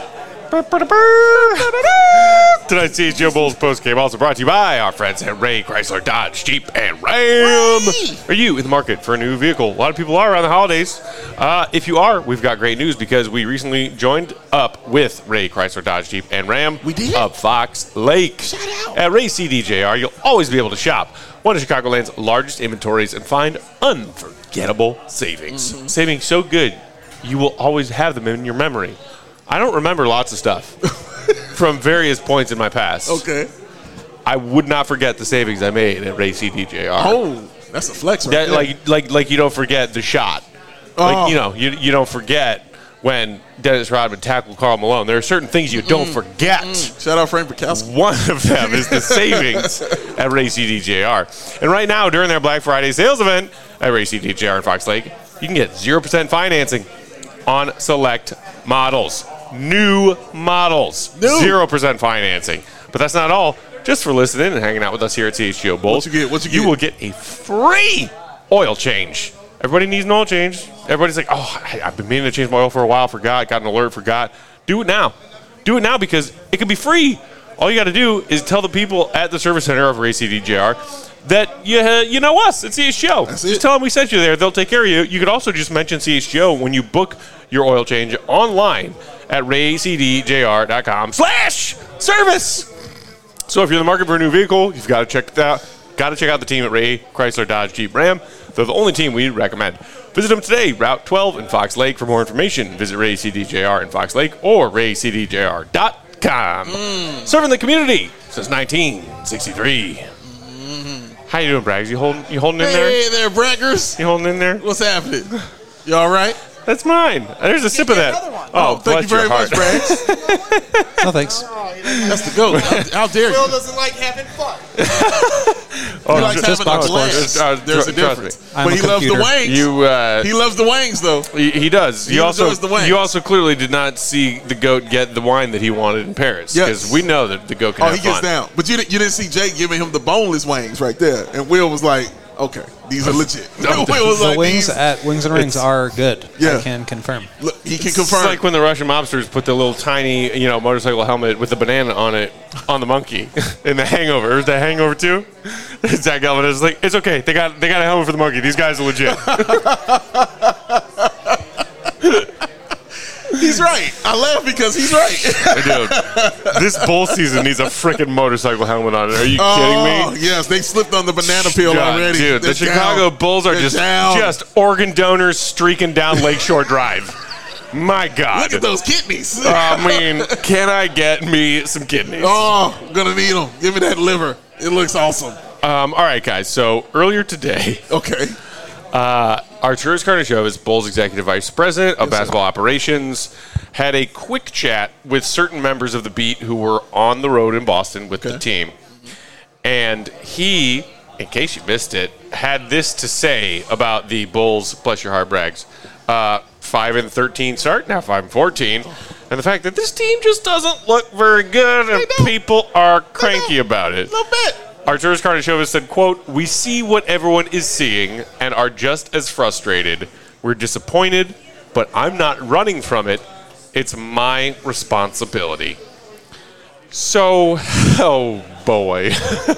Tonight's CHGO Bulls postgame also brought to you by our friends at Ray Chrysler Dodge Jeep and Ram. Are you in the market for a new vehicle? A lot of people are around the holidays. If you are, we've got great news because we recently joined up with Ray Chrysler Dodge Jeep and Ram. We did? Of Fox Lake. Shout out. At Ray CDJR, you'll always be able to shop one of Chicagoland's largest inventories and find unforgettable savings. Mm-hmm. Savings so good, you will always have them in your memory. I don't remember lots of stuff from various points in my past. Okay. I would not forget the savings I made at Ray CDJR. Oh, that's a flex right there. Like you don't forget the shot. Oh. Like, you don't forget when Dennis Rodman tackled Karl Malone. There are certain things you don't forget. Shout out Frank Bukowski. One of them is the savings at Ray CDJR. And right now, during their Black Friday sales event at Ray CDJR in Fox Lake, you can get 0% financing on select models. New models. 0% financing. But that's not all. Just for listening and hanging out with us here at CHGO Bulls, What you get? You will get a free oil change Everybody needs an oil change. Everybody's like, oh, I've been meaning to change my oil for a while, forgot, got an alert, forgot. Do it now. Do it now because it can be free. All you got to do is tell the people at the service center of ACDJR that you know us at CHGO. Just tell them we sent you there. They'll take care of you. You could also just mention CHGO when you book your oil change online at raycdjr.com/service. So if you're in the market for a new vehicle, you've got to check that out. Got to check out the team at Ray Chrysler Dodge Jeep Ram. They're the only team we recommend. Visit them today, Route 12 in Fox Lake. For more information, visit Ray CDJR in Fox Lake or raycdjr.com. Serving the community since 1963. How you doing, Braggs? You holding in there? Hey there, Braggers. You holding in there? What's happening? You all right? That's mine. There's a sip of that. Oh, thank you very much, Braggs. No, thanks. That's the goat. How dare you? Will doesn't like having fun. He likes just having box a glance. scores. There's a Trust difference. I'm But a he loves the computer. wings. He loves the wings, though. He does. He enjoys the wings. You also clearly did not see the GOAT get the wine that he wanted in Paris. Yes. Because we know that the GOAT can Oh, have he gets fun. down. But you didn't see Jake giving him the boneless wings right there. And Will was like, okay, these are legit. Will was The like, wings these, at Wings and Rings are good. Yeah. I can confirm. look, he can It's confirm. like when the Russian mobsters put the little tiny, motorcycle helmet with the banana on it on the monkey in The Hangover. Is that Hangover 2? Zach Galvin is like, it's okay. They got a helmet for the monkey. These guys are legit. He's right. I laugh because he's right. Dude, this bull season needs a freaking motorcycle helmet on it. Are you kidding Oh, me? yes, they slipped on the banana peel God, already. dude, They're the Chicago down. Bulls are They're just down. organ donors streaking down Lakeshore Drive. My God. Look at those kidneys. I mean, can I get me some kidneys? Oh, I'm going to need them. Give me that liver. It looks awesome. All right, guys. So earlier today, Okay. Arturas Karnisovas, Bulls Executive Vice President of Basketball Operations, had a quick chat with certain members of the beat who were on the road in Boston with the team. And he, in case you missed it, had this to say about the Bulls, bless your heart, Braggs, 5-13 start, now 5-14, and the fact that this team just doesn't look very good and people are cranky about it. A little bit. Arturas Karnisovas said, quote, "We see what everyone is seeing and are just as frustrated. We're disappointed, but I'm not running from it. It's my responsibility." So, oh boy.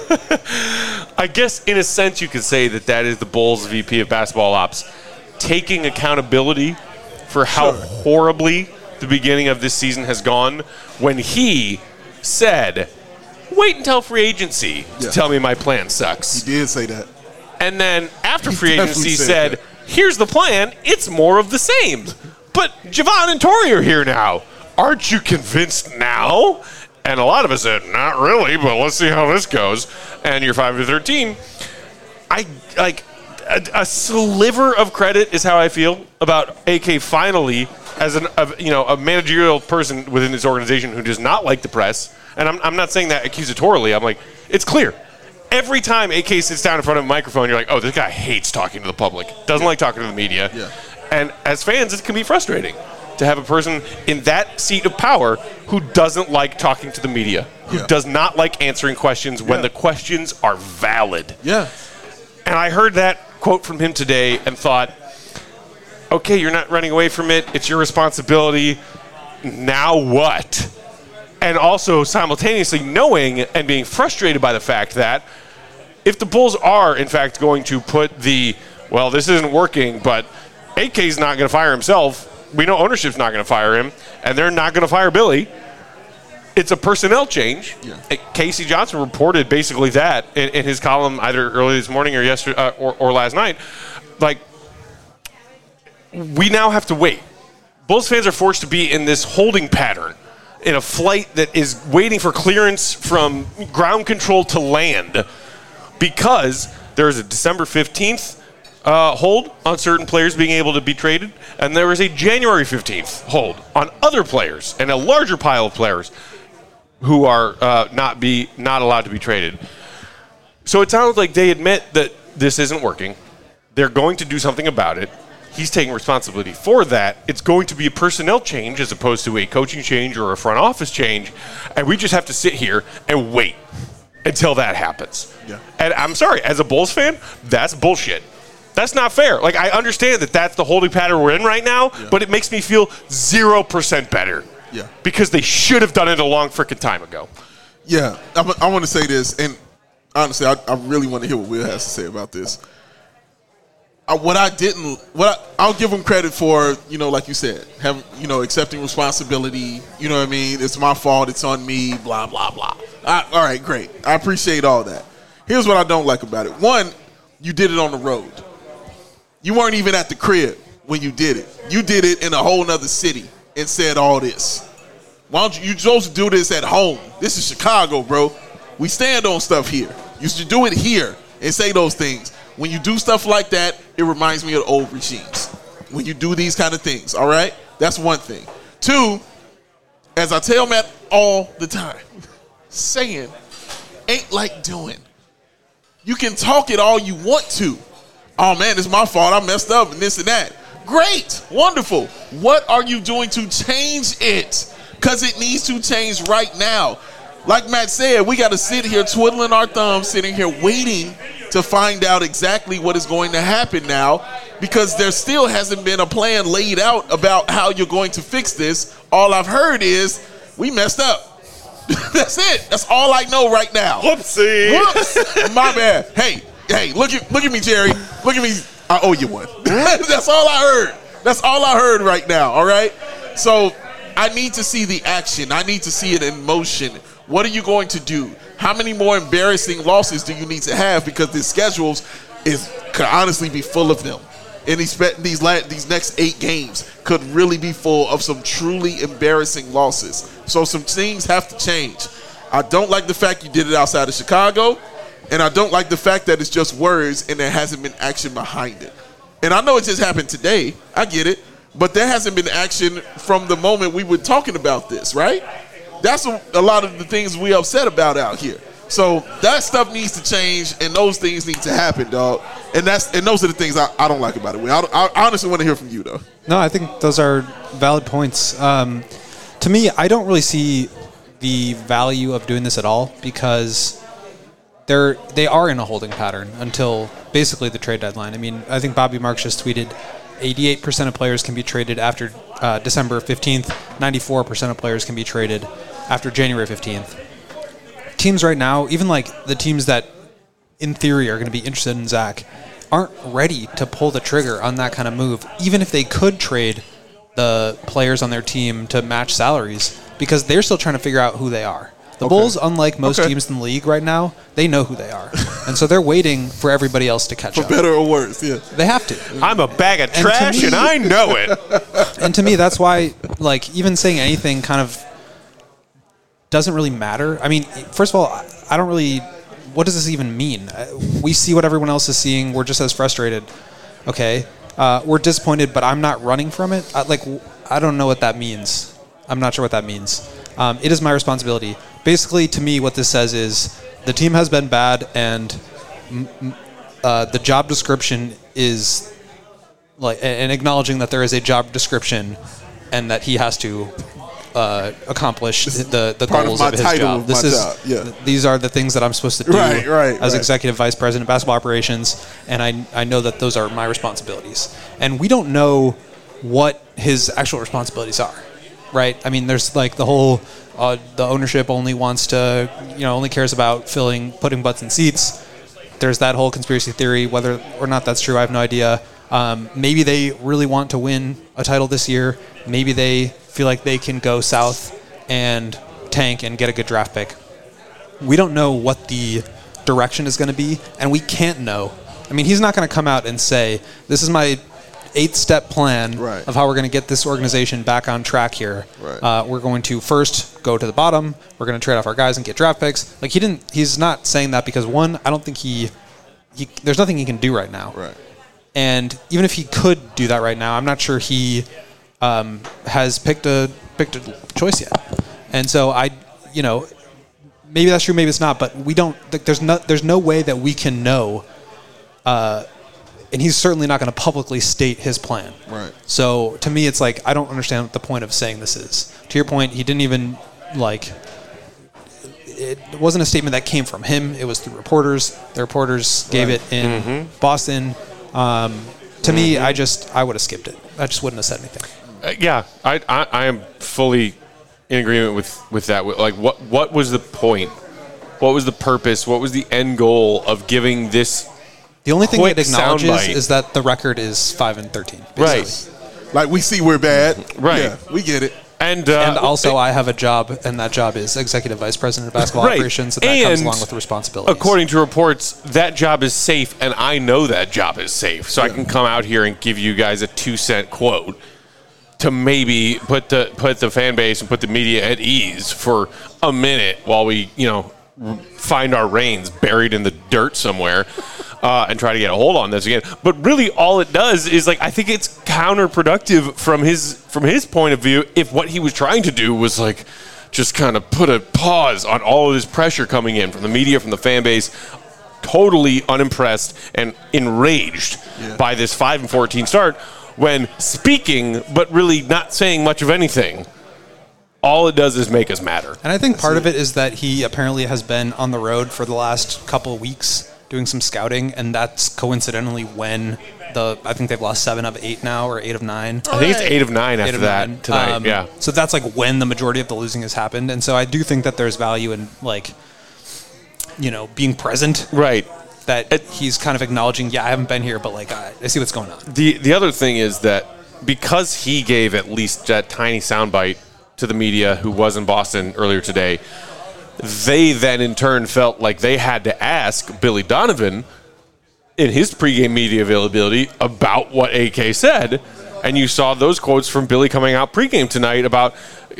I guess in a sense you could say that is the Bulls VP of Basketball Ops taking accountability for how horribly the beginning of this season has gone when he said, wait until free agency to tell me my plan sucks. He did say that. And then after free definitely agency said said, that. here's the plan, it's more of the same. But Javon and Torrey are here now. Aren't you convinced now? And a lot of us said, not really, but let's see how this goes. And you're 5-13. I like a sliver of credit is how I feel about AK finally as a managerial person within this organization who does not like the press. And I'm not saying that accusatorily. I'm like, it's clear. Every time AK sits down in front of a microphone, you're like, oh, this guy hates talking to the public. Doesn't like talking to the media. Yeah. And as fans, it can be frustrating to have a person in that seat of power who doesn't like talking to the media, who does not like answering questions when the questions are valid. Yeah. And I heard that quote from him today and thought, okay, you're not running away from it. It's your responsibility. Now what? And also simultaneously knowing and being frustrated by the fact that if the Bulls are, in fact, going to put well, this isn't working, but AK's not going to fire himself. We know ownership's not going to fire him, and they're not going to fire Billy. It's a personnel change. Yeah. Casey Johnson reported basically that in his column either early this morning or yesterday or last night. Like, we now have to wait. Bulls fans are forced to be in this holding pattern in a flight that is waiting for clearance from ground control to land because there is a December 15th hold on certain players being able to be traded, and there is a January 15th hold on other players and a larger pile of players who are not allowed to be traded. So it sounds like they admit that this isn't working. They're going to do something about it. He's taking responsibility for that. It's going to be a personnel change as opposed to a coaching change or a front office change, and we just have to sit here and wait until that happens. Yeah. And I'm sorry, as a Bulls fan, that's bullshit. That's not fair. Like, I understand that that's the holding pattern we're in right now, but it makes me feel 0% better. Yeah. Because they should have done it a long freaking time ago. Yeah. I want to say this, and honestly, I really want to hear what Will has to say about this. I'll give him credit for, like you said, accepting responsibility. You know what I mean? It's my fault. It's on me. Blah, blah, blah. All right, great. I appreciate all that. Here's what I don't like about it. One, you did it on the road. You weren't even at the crib when you did it. You did it in a whole nother city and said all this. Why don't you supposed to do this at home? This is Chicago, bro. We stand on stuff here. You should do it here and say those things. When you do stuff like that, it reminds me of old regimes. When you do these kind of things, all right? That's one thing. Two, as I tell Matt all the time, saying ain't like doing. You can talk it all you want to. Oh, man, it's my fault. I messed up and this and that. Great. Wonderful. What are you doing to change it? Because it needs to change right now. Like Matt said, we got to sit here twiddling our thumbs, sitting here waiting to find out exactly what is going to happen now, because there still hasn't been a plan laid out about how you're going to fix this. All I've heard is we messed up. That's it. That's all I know right now. Whoopsie. Whoops. My bad. Hey, look at me, Jerry. Look at me. I owe you one. That's all I heard. That's all I heard right now, all right? So I need to see the action. I need to see it in motion. What are you going to do? How many more embarrassing losses do you need to have? Because the schedules could honestly be full of them. And these next 8 games could really be full of some truly embarrassing losses. So some things have to change. I don't like the fact you did it outside of Chicago, and I don't like the fact that it's just words and there hasn't been action behind it. And I know it just happened today. I get it. But there hasn't been action from the moment we were talking about this, right? That's a lot of the things we upset about out here. So that stuff needs to change, and those things need to happen, dog. And those are the things I don't like about it. I honestly want to hear from you, though. No, I think those are valid points. To me, I don't really see the value of doing this at all, because they are in a holding pattern until basically the trade deadline. I mean, I think Bobby Marks just tweeted 88% of players can be traded after December 15th. 94% of players can be traded after January 15th. Teams right now, even like the teams that in theory are going to be interested in Zach, aren't ready to pull the trigger on that kind of move, even if they could trade the players on their team to match salaries, because they're still trying to figure out who they are. The Bulls, unlike most teams in the league right now, they know who they are. And so they're waiting for everybody else to catch up. For better or worse, yeah. They have to. I'm a bag of trash, and I know it. And to me, that's why, like, even saying anything kind of doesn't really matter. I mean, first of all, I don't really... What does this even mean? We see what everyone else is seeing. We're just as frustrated. Okay. We're disappointed, but I'm not running from it. I don't know what that means. I'm not sure what that means. It is my responsibility. Basically, to me, what this says is the team has been bad, and the job description is like, and acknowledging that there is a job description and that he has to accomplish the goals of his job. These are the things that I'm supposed to do as executive vice president of basketball operations, and I know that those are my responsibilities. And we don't know what his actual responsibilities are. Right. I mean, there's like the whole the ownership only wants to, only cares about putting butts in seats. There's that whole conspiracy theory. Whether or not that's true, I have no idea. Maybe they really want to win a title this year. Maybe they feel like they can go south and tank and get a good draft pick. We don't know what the direction is going to be, and we can't know. I mean, he's not going to come out and say, this is my 8-step plan of how we're going to get this organization back on track here. We're going to first go to the bottom. We're going to trade off our guys and get draft picks. Like, he's not saying that because, one, I don't think there's nothing he can do right now. And even if he could do that right now, I'm not sure he has picked a choice yet. And so maybe that's true, maybe it's not, but we don't. There's no way that we can know. And he's certainly not going to publicly state his plan. So to me, it's like, I don't understand what the point of saying this is. To your point, he didn't even it wasn't a statement that came from him. It was through reporters. The reporters gave it in Boston. To me, I would have skipped it. I just wouldn't have said anything. Yeah, I am fully in agreement with that. Like, what was the point? What was the purpose? What was the end goal of giving this? The only thing quick it acknowledges soundbite? is that the record is 5-13. Basically. Right. Like, we see we're bad. Right. Yeah, we get it. And also, I have a job, and that job is Executive Vice President of Basketball Right. Operations, so that comes along with the responsibilities. According to reports, that job is safe, and I know that job is safe. So I can come out here and give you guys a 2-cent quote to maybe put the fan base and put the media at ease for a minute while we, find our reins buried in the dirt somewhere and try to get a hold on this again. But really, all it does is, like, I think it's counterproductive from his point of view. If what he was trying to do was, like, just kind of put a pause on all of this pressure coming in from the media, from the fan base, totally unimpressed and enraged by this 5-14 start, when speaking but really not saying much of anything. All it does is make us matter. And I think part of it is that he apparently has been on the road for the last couple of weeks doing some scouting, and that's coincidentally when I think they've lost 7 of 8 now, or 8 of 9. I think it's 8 of 9 after that tonight. Yeah. So that's like when the majority of the losing has happened, and so I do think that there's value in, like, being present. Right. That he's kind of acknowledging, I haven't been here, but, like, I see what's going on. The other thing is that because he gave at least that tiny soundbite to the media who was in Boston earlier today, they then in turn felt like they had to ask Billy Donovan in his pregame media availability about what AK said. And you saw those quotes from Billy coming out pregame tonight about,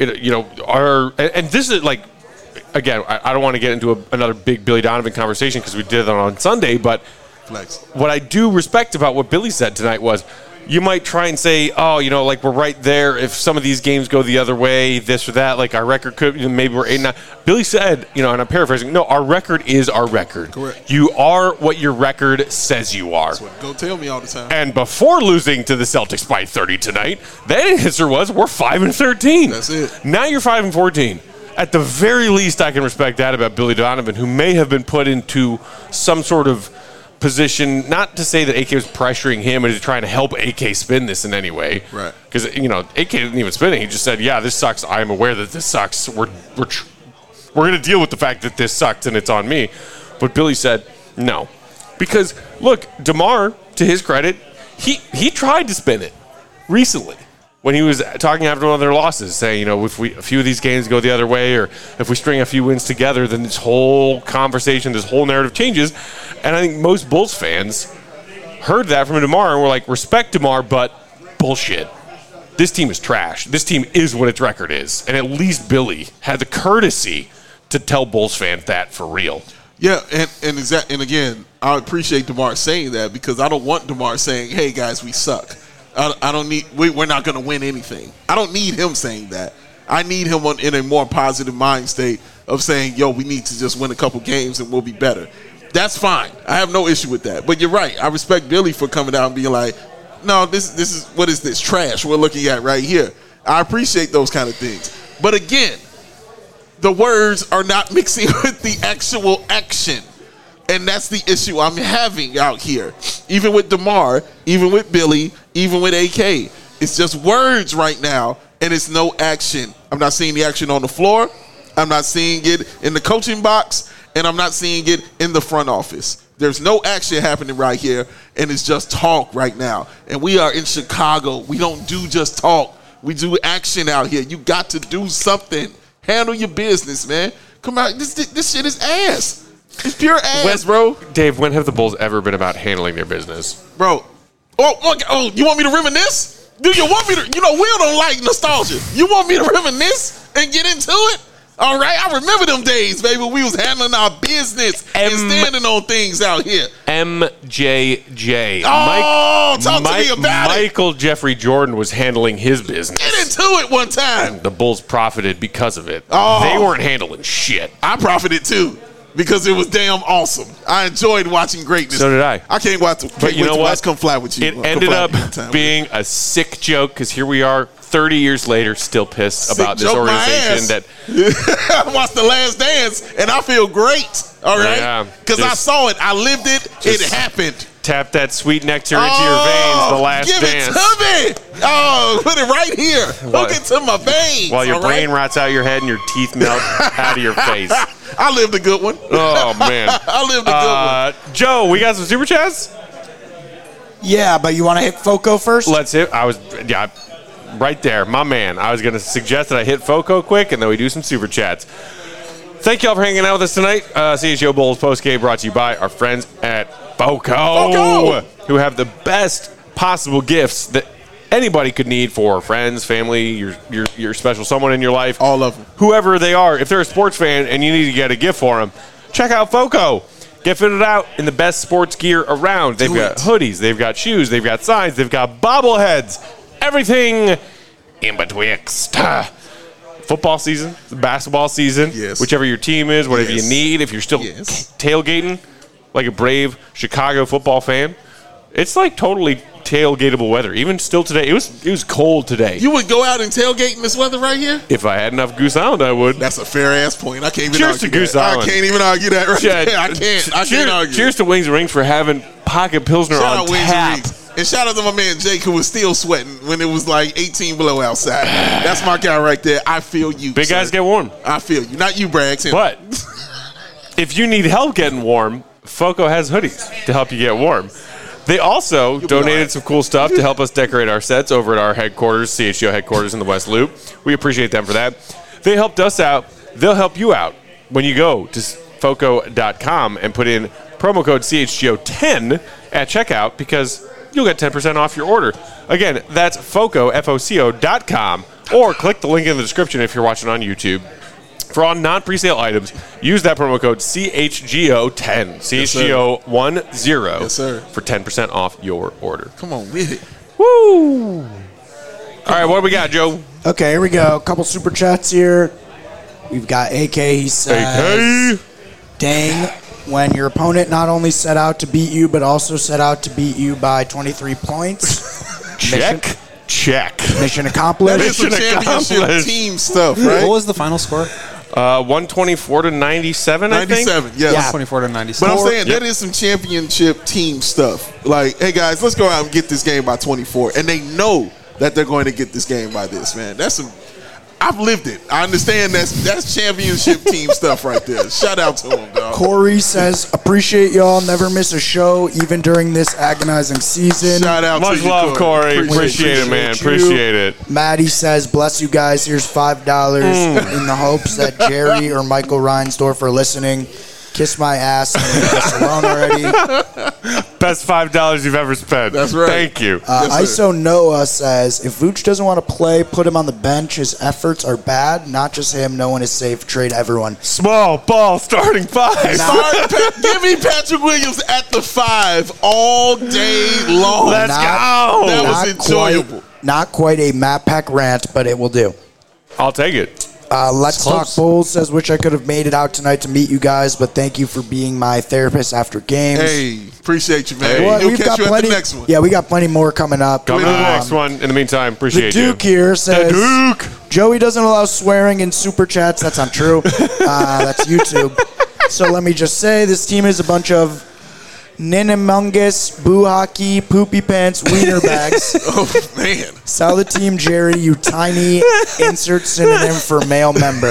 and this is like, again, I don't want to get into another big Billy Donovan conversation because we did that on Sunday, but what I do respect about what Billy said tonight was, you might try and say, like, we're right there. If some of these games go the other way, this or that, like, our record could, maybe we're 8-9. Billy said, and I'm paraphrasing, no, our record is our record. Correct. You are what your record says you are. That's what go tell me all the time. And before losing to the Celtics by 30 tonight, that answer was, we're 5-13. That's it. Now you're 5-14. At the very least, I can respect that about Billy Donovan, who may have been put into some sort of position, not to say that AK was pressuring him and trying to help AK spin this in any way. Right. Because, AK didn't even spin it. He just said, this sucks. I am aware that this sucks. We're going to deal with the fact that this sucks and it's on me. But Billy said, no. Because, look, DeMar, to his credit, he tried to spin it recently when he was talking after one of their losses, saying, if a few of these games go the other way, or if we string a few wins together, then this whole conversation, this whole narrative changes. And I think most Bulls fans heard that from DeMar and were like, respect DeMar, but bullshit. This team is trash. This team is what its record is. And at least Billy had the courtesy to tell Bulls fans that for real. Yeah, and again, I appreciate DeMar saying that, because I don't want DeMar saying, hey, guys, we suck. I don't need. We're not going to win anything. I don't need him saying that. I need him in a more positive mind state of saying, "Yo, we need to just win a couple games and we'll be better." That's fine. I have no issue with that. But you're right. I respect Billy for coming out and being like, "No, this is what is this trash we're looking at right here." I appreciate those kind of things. But again, the words are not mixing with the actual action. And that's the issue I'm having out here. Even with DeMar, even with Billy, even with AK. It's just words right now, and it's no action. I'm not seeing the action on the floor. I'm not seeing it in the coaching box, and I'm not seeing it in the front office. There's no action happening right here, and it's just talk right now. And we are in Chicago. We don't do just talk. We do action out here. You got to do something. Handle your business, man. Come on. This shit is ass. It's pure ass, bro. Dave, when have the Bulls ever been about handling their business? Bro. Oh, you want me to reminisce? Do you want me to? Will don't like nostalgia. You want me to reminisce and get into it? All right, I remember them days, baby. We was handling our business and standing on things out here. MJJ. Talk to me about it. Michael Jeffrey Jordan was handling his business. Get into it one time. And the Bulls profited because of it. Oh. They weren't handling shit. I profited too. because it was damn awesome. I enjoyed watching greatness. So did I. I can't wait to, But you know what? Let's come fly with you. It ended up being a sick joke because here we are 30 years later still pissed Sick about this joke my organization ass. that I watched The Last Dance, and I feel great. All right? Yeah, Because I just- saw it. I lived it. It happened. tapped that sweet nectar into your veins, the last give dance. it to me. Oh, put it right here. Hook it to my veins. While your all brain right? rots out your head and your teeth melt out of your face. I lived a good one. Oh, man. I lived a good one. Joe, we got some super chats? Yeah, but you want to hit Foco first? Let's hit. Yeah, right there, my man. I was going to suggest that I hit Foco quick and then we do some super chats. Thank y'all for hanging out with us tonight. CHGO Bowls Postgame brought to you by our friends at Foco, who have the best possible gifts that anybody could need for friends, family, your special someone in your life. All of them. Whoever they are. If they're a sports fan and you need to get a gift for them, check out Foco. Get fitted out in the best sports gear around. They've got hoodies, they've got shoes, they've got signs, they've got bobbleheads, everything in betwixt. Football season, basketball season, whichever your team is, whatever you need. If you're still tailgating like a brave Chicago football fan, it's like totally tailgatable weather. Even still today, it was cold today. You would go out and tailgate in this weather right here? If I had enough Goose Island, I would. That's a fair ass point. I can't even Cheers argue to Goose that. Island. I can't even argue that right there. I can't argue. Cheers to Wings and Rings for having Pocket Pilsner Shout on out Wings tap. and Rings. And shout out to my man Jake, who was still sweating when it was like 18 below outside. That's my guy right there. I feel you. Big guys get warm. I feel you. Not you, Braggs. Him. But if you need help getting warm, Foco has hoodies to help you get warm. They also donated some cool stuff to help us decorate our sets over at our headquarters, CHGO headquarters in the West Loop. We appreciate them for that. They helped us out. They'll help you out when you go to foco.com and put in promo code CHGO10 at checkout because you'll get 10% off your order. Again, that's Foco, FOCO.com, or click the link in the description if you're watching on YouTube. For all non-presale items, use that promo code CHGO10, CHGO10 Yes, sir. for 10% off your order. Come on with it. Woo! All right, what do we got, Joe? Okay, here we go. A couple super chats here. We've got AK. He says, dang, when your opponent not only set out to beat you, but also set out to beat you by 23 points. Check. Mission accomplished. That is some championship team stuff, right? What was the final score? 124 to 97, I think. 97, yes. Yeah. 24 to 97. But I'm saying that is some championship team stuff. Like, hey guys, let's go out and get this game by 24, and they know that they're going to get this game by this. Man, that's some. I've lived it. I understand that's championship team stuff right there. Shout out to them, dog. Corey says, appreciate y'all. Never miss a show, even during this agonizing season. Shout out Much to you, love, Corey. Appreciate it, man. you. Appreciate it. Maddie says, bless you guys. Here's $5 in the hopes that Jerry or Michael Reinsdorf are listening. Kiss my ass and leave us alone already. Best $5 you've ever spent. That's right. Thank you. ISO Noah says, if Vooch doesn't want to play, put him on the bench. His efforts are bad. Not just him. No one is safe. Trade everyone. Small ball starting five. Give me Patrick Williams at the 5 all day long. Let's go. That was enjoyable. Not quite a Matt Peck rant, but it will do. I'll take it. Let's Talk Bulls says, wish I could have made it out tonight to meet you guys, but thank you for being my therapist after games. Hey, appreciate you, man. Well, We'll catch you at the next one. Yeah, we got plenty more coming up. Come to the next one. In the meantime, The appreciate you. Duke here says, Duke. Joey doesn't allow swearing in super chats. That's not true. That's YouTube. So let me just say, this team is a bunch of ninnimungus, boo hockey, poopy pants, wiener bags. Oh, man. Sell the team, Jerry, you tiny insert synonym for male member.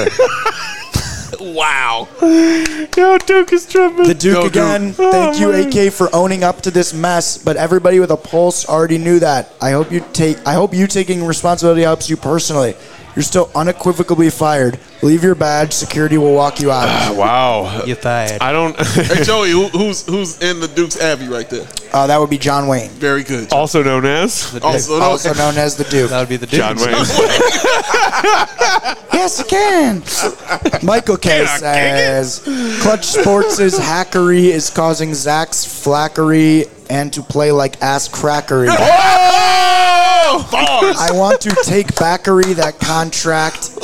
Wow. Yo, Duke is tripping. The Duke Go, Duke. again. Thank you, AK, for owning up to this mess. But everybody with a pulse already knew that. I hope you taking responsibility helps you personally. You're still unequivocally fired. Leave your badge. Security will walk you out. Wow. You fired. I don't. Hey, Joey, who's in the Duke's Abbey right there? That would be John Wayne, Very good. Also known as Also, also known as the Duke. That would be the Duke. John Wayne. Yes, you can. Michael K says, Clutch Sports' hackery is causing Zach's flackery and to play like ass crackery. Oh! Bars. I want to take backery that contract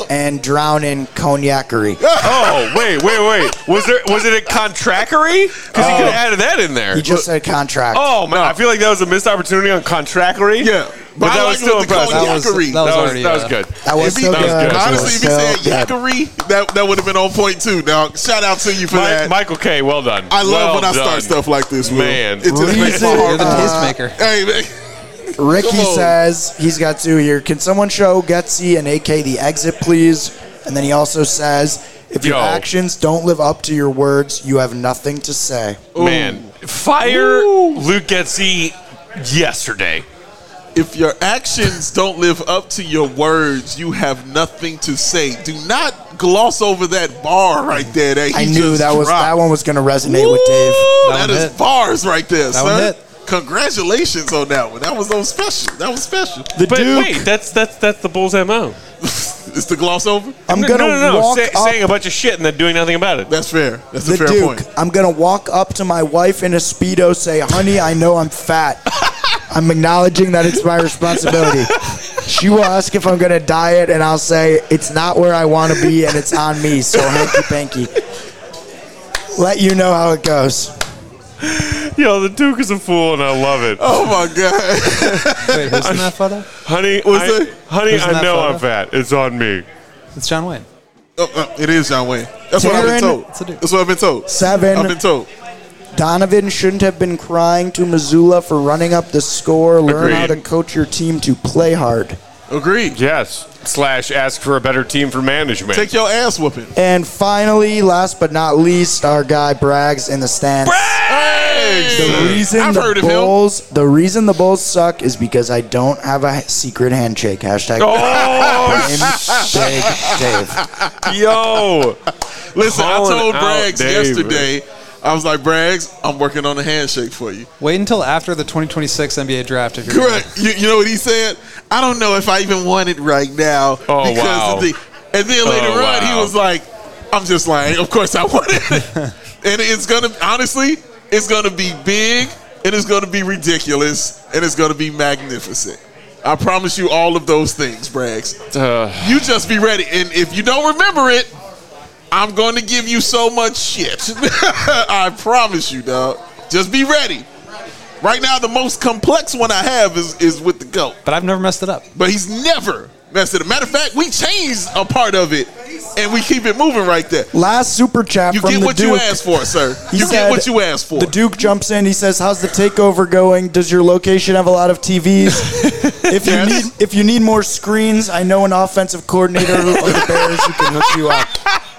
and drown in cognacery. Oh, wait. Was it a contrackery? Because he could have added that in there. He just said contract. Oh man, I feel like that was a missed opportunity on contrackery. Yeah. but that was still impressive. That was good. That was still good. Honestly, if he said Yakkery, that would have been on point too. Now, shout out to you for that. Michael K. Well done. I love when I start stuff like this, Will. Man. It just makes my You're heart. the tastemaker. Hey, man. Ricky says he's got two here. Can someone show Getsy and AK the exit, please? And then he also says, if your actions don't live up to your words, you have nothing to say. Man, fire Luke Getsy yesterday. If your actions don't live up to your words, you have nothing to say. Do not gloss over that bar right there. That I knew that one was going to resonate with Dave. That is bars right there, that one hit. Congratulations on that one. That was so special. That was special. The But Duke. wait, that's the Bulls' MO. It's the gloss over? I'm going to walk up. Saying a bunch of shit and then doing nothing about it. That's fair. That's a The fair Duke. point. I'm going to walk up to my wife in a Speedo, say, honey, I know I'm fat. I'm acknowledging that it's my responsibility. She will ask if I'm going to diet, and I'll say, it's not where I want to be, and it's on me, so hanky-panky. Let you know how it goes. Yo, the Duke is a fool, and I love it. Oh, my God. Wait, who's in that photo? Honey, Who's I in that know photo? I'm fat. It's on me. It's John Wayne. It is John Wayne. That's what I've been Taryn- told. It's a Duke. That's what I've been told. 7. I've been told. Donovan shouldn't have been crying to Missoula for running up the score. Learn how to Agreed. coach your team to play hard. Agreed. Yes. / ask for a better team for management. Take your ass whooping. And finally, last but not least, our guy Braggs in the stands. The reason I've heard of him. the reason the Bulls suck is because I don't have a secret handshake. Hashtag Oh, Dave. yo. Listen, I Calling told out Braggs Dave. yesterday, I was like, Braggs, I'm working on a handshake for you. Wait until after the 2026 NBA draft. If you're Correct. You know what he said? I don't know if I even want it right now. Oh, because wow. of the. And then later on, wow. he was like, I'm just lying. Of course I want it. And it's going to, honestly, it's going to be big, and it's going to be ridiculous, and it's going to be magnificent. I promise you all of those things, Braggs. You just be ready. And if you don't remember it, I'm going to give you so much shit. I promise you, dog. Just be ready. Right now, the most complex one I have is with the GOAT. But I've never messed it up. But he's never messed it up. Matter of fact, we changed a part of it, and we keep it moving right there. Last super chat You from get the what Duke. you asked for, sir. He You said- get what you asked for. The Duke jumps in. He says, "How's the takeover going? Does your location have a lot of TVs? If you need more screens, I know an offensive coordinator of the Bears who can hook you up."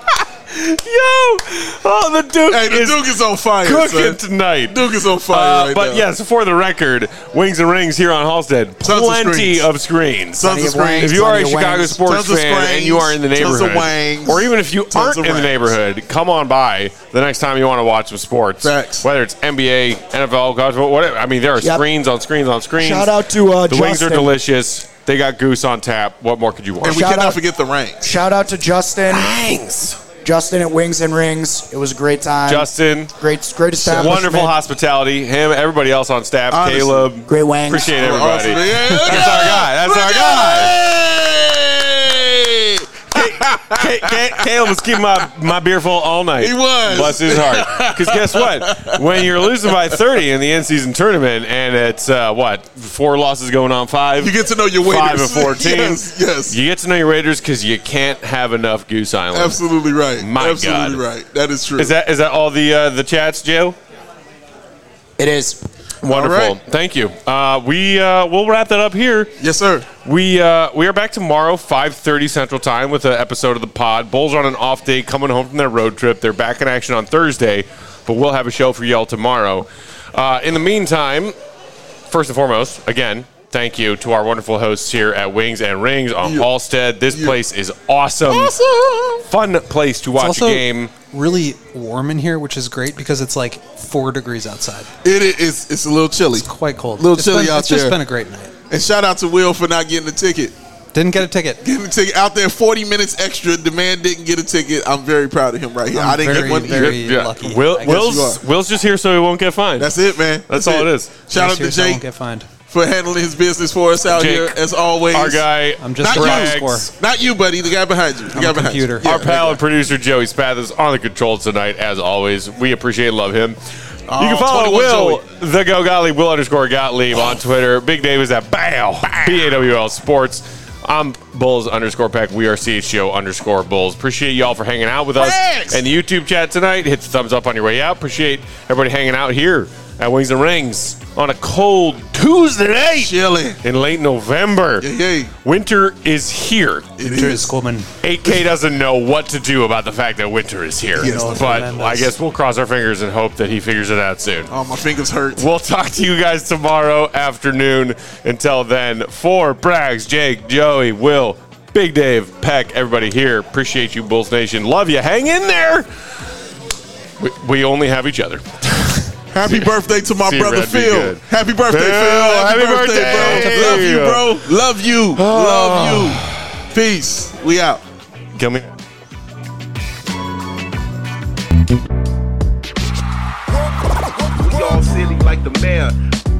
The Duke Hey, the is Duke is on fire, cooking son. tonight. Duke is on fire right but now. yes, for the record, Wings and Rings here on Halstead, Tons of plenty screens. of screens. Tons of screens. If you are a Plenty of Chicago wings. sports Tons of fan and screens. you are in the Tons of neighborhood, wings. or even if you Tons aren't of in the wings. neighborhood, come on by the next time you want to watch some sports. Facts. Whether it's NBA, NFL, college, whatever. I mean, there are Yep. screens on screens on screens. Shout out to the wings are Justin. delicious. They got goose on tap. What more could you want? And we Shout cannot out- forget the ranks. Shout out to Justin. Thanks, Justin at Wings and Rings. It was a great time. Justin. Great establishment. Wonderful hospitality. Him, everybody else on staff. Honestly. Caleb. Great wangs. Appreciate everybody. Awesome. Yeah, look That's our at guy. That's Look our at guy. Caleb was keeping my beer full all night. He was. Bless his heart. Because guess what? When you're losing by 30 in the in-season tournament, and it's, 4 losses going on 5? You get to know your waiters. 5 of 14. Yes. You get to know your Raiders because you can't have enough Goose Island. Absolutely right. My Absolutely God. right. That is true. Is that all the chats, Joe? It is. Wonderful. All right. Thank you. We'll wrap that up here. Yes, sir. We are back tomorrow, 5:30 Central Time, with an episode of the pod. Bulls are on an off day, coming home from their road trip. They're back in action on Thursday, but we'll have a show for y'all tomorrow. In the meantime, first and foremost, again, thank you to our wonderful hosts here at Wings and Rings on Halstead. This place is awesome. Fun place to watch It's a also game. really warm in here, which is great because it's like 4 degrees outside. It is. It's a little chilly. It's quite cold. Little It's chilly out It's just there. been a great night. And shout out to Will for not getting a ticket. Didn't get a ticket. Getting the ticket out there 40 minutes extra. The man didn't get a ticket. I'm very proud of him right here. I didn't very, get one either. very lucky. Will, I guess you Will's just here so he won't get fined. That's it, man. That's all it is. Shout out Just to here so I Jake. won't get fined. for handling his business for us out Jake, here, as always. Our guy, I'm just Not a you. score. Not you, buddy. The guy behind you. The guy a behind computer. you. our pal and producer Joey Spath is on the controls tonight, as always. We appreciate and love him. You can follow 21 Will, Joey. the Go Gottlieb, Will _ Gottlieb on Twitter. Big Dave is at BAW, BAWL Sports. I'm Bulls _Peck. We are CHGO _Bulls. Appreciate y'all for hanging out with us Thanks. and the YouTube chat tonight. Hit the thumbs up on your way out. Appreciate everybody hanging out here at Wings and Rings on a cold Tuesday night Chilly. in late November. Yay. Winter is here. It Winter is. is coming. 8K doesn't know what to do about the fact that winter is here. Yes, but tremendous. I guess we'll cross our fingers and hope that he figures it out soon. Oh, my fingers hurt. We'll talk to you guys tomorrow afternoon. Until then, for Braggs, Jake, Joey, Will, Big Dave, Peck, everybody here, appreciate you, Bulls Nation. Love you. Hang in there. We only have each other. Happy birthday to my See you, brother Red. Be Phil. good. Happy birthday, Phil. Phil. Happy birthday. bro. Love you, bro. Love you. Love you. Peace. We out. Come in. We all silly like the mayor.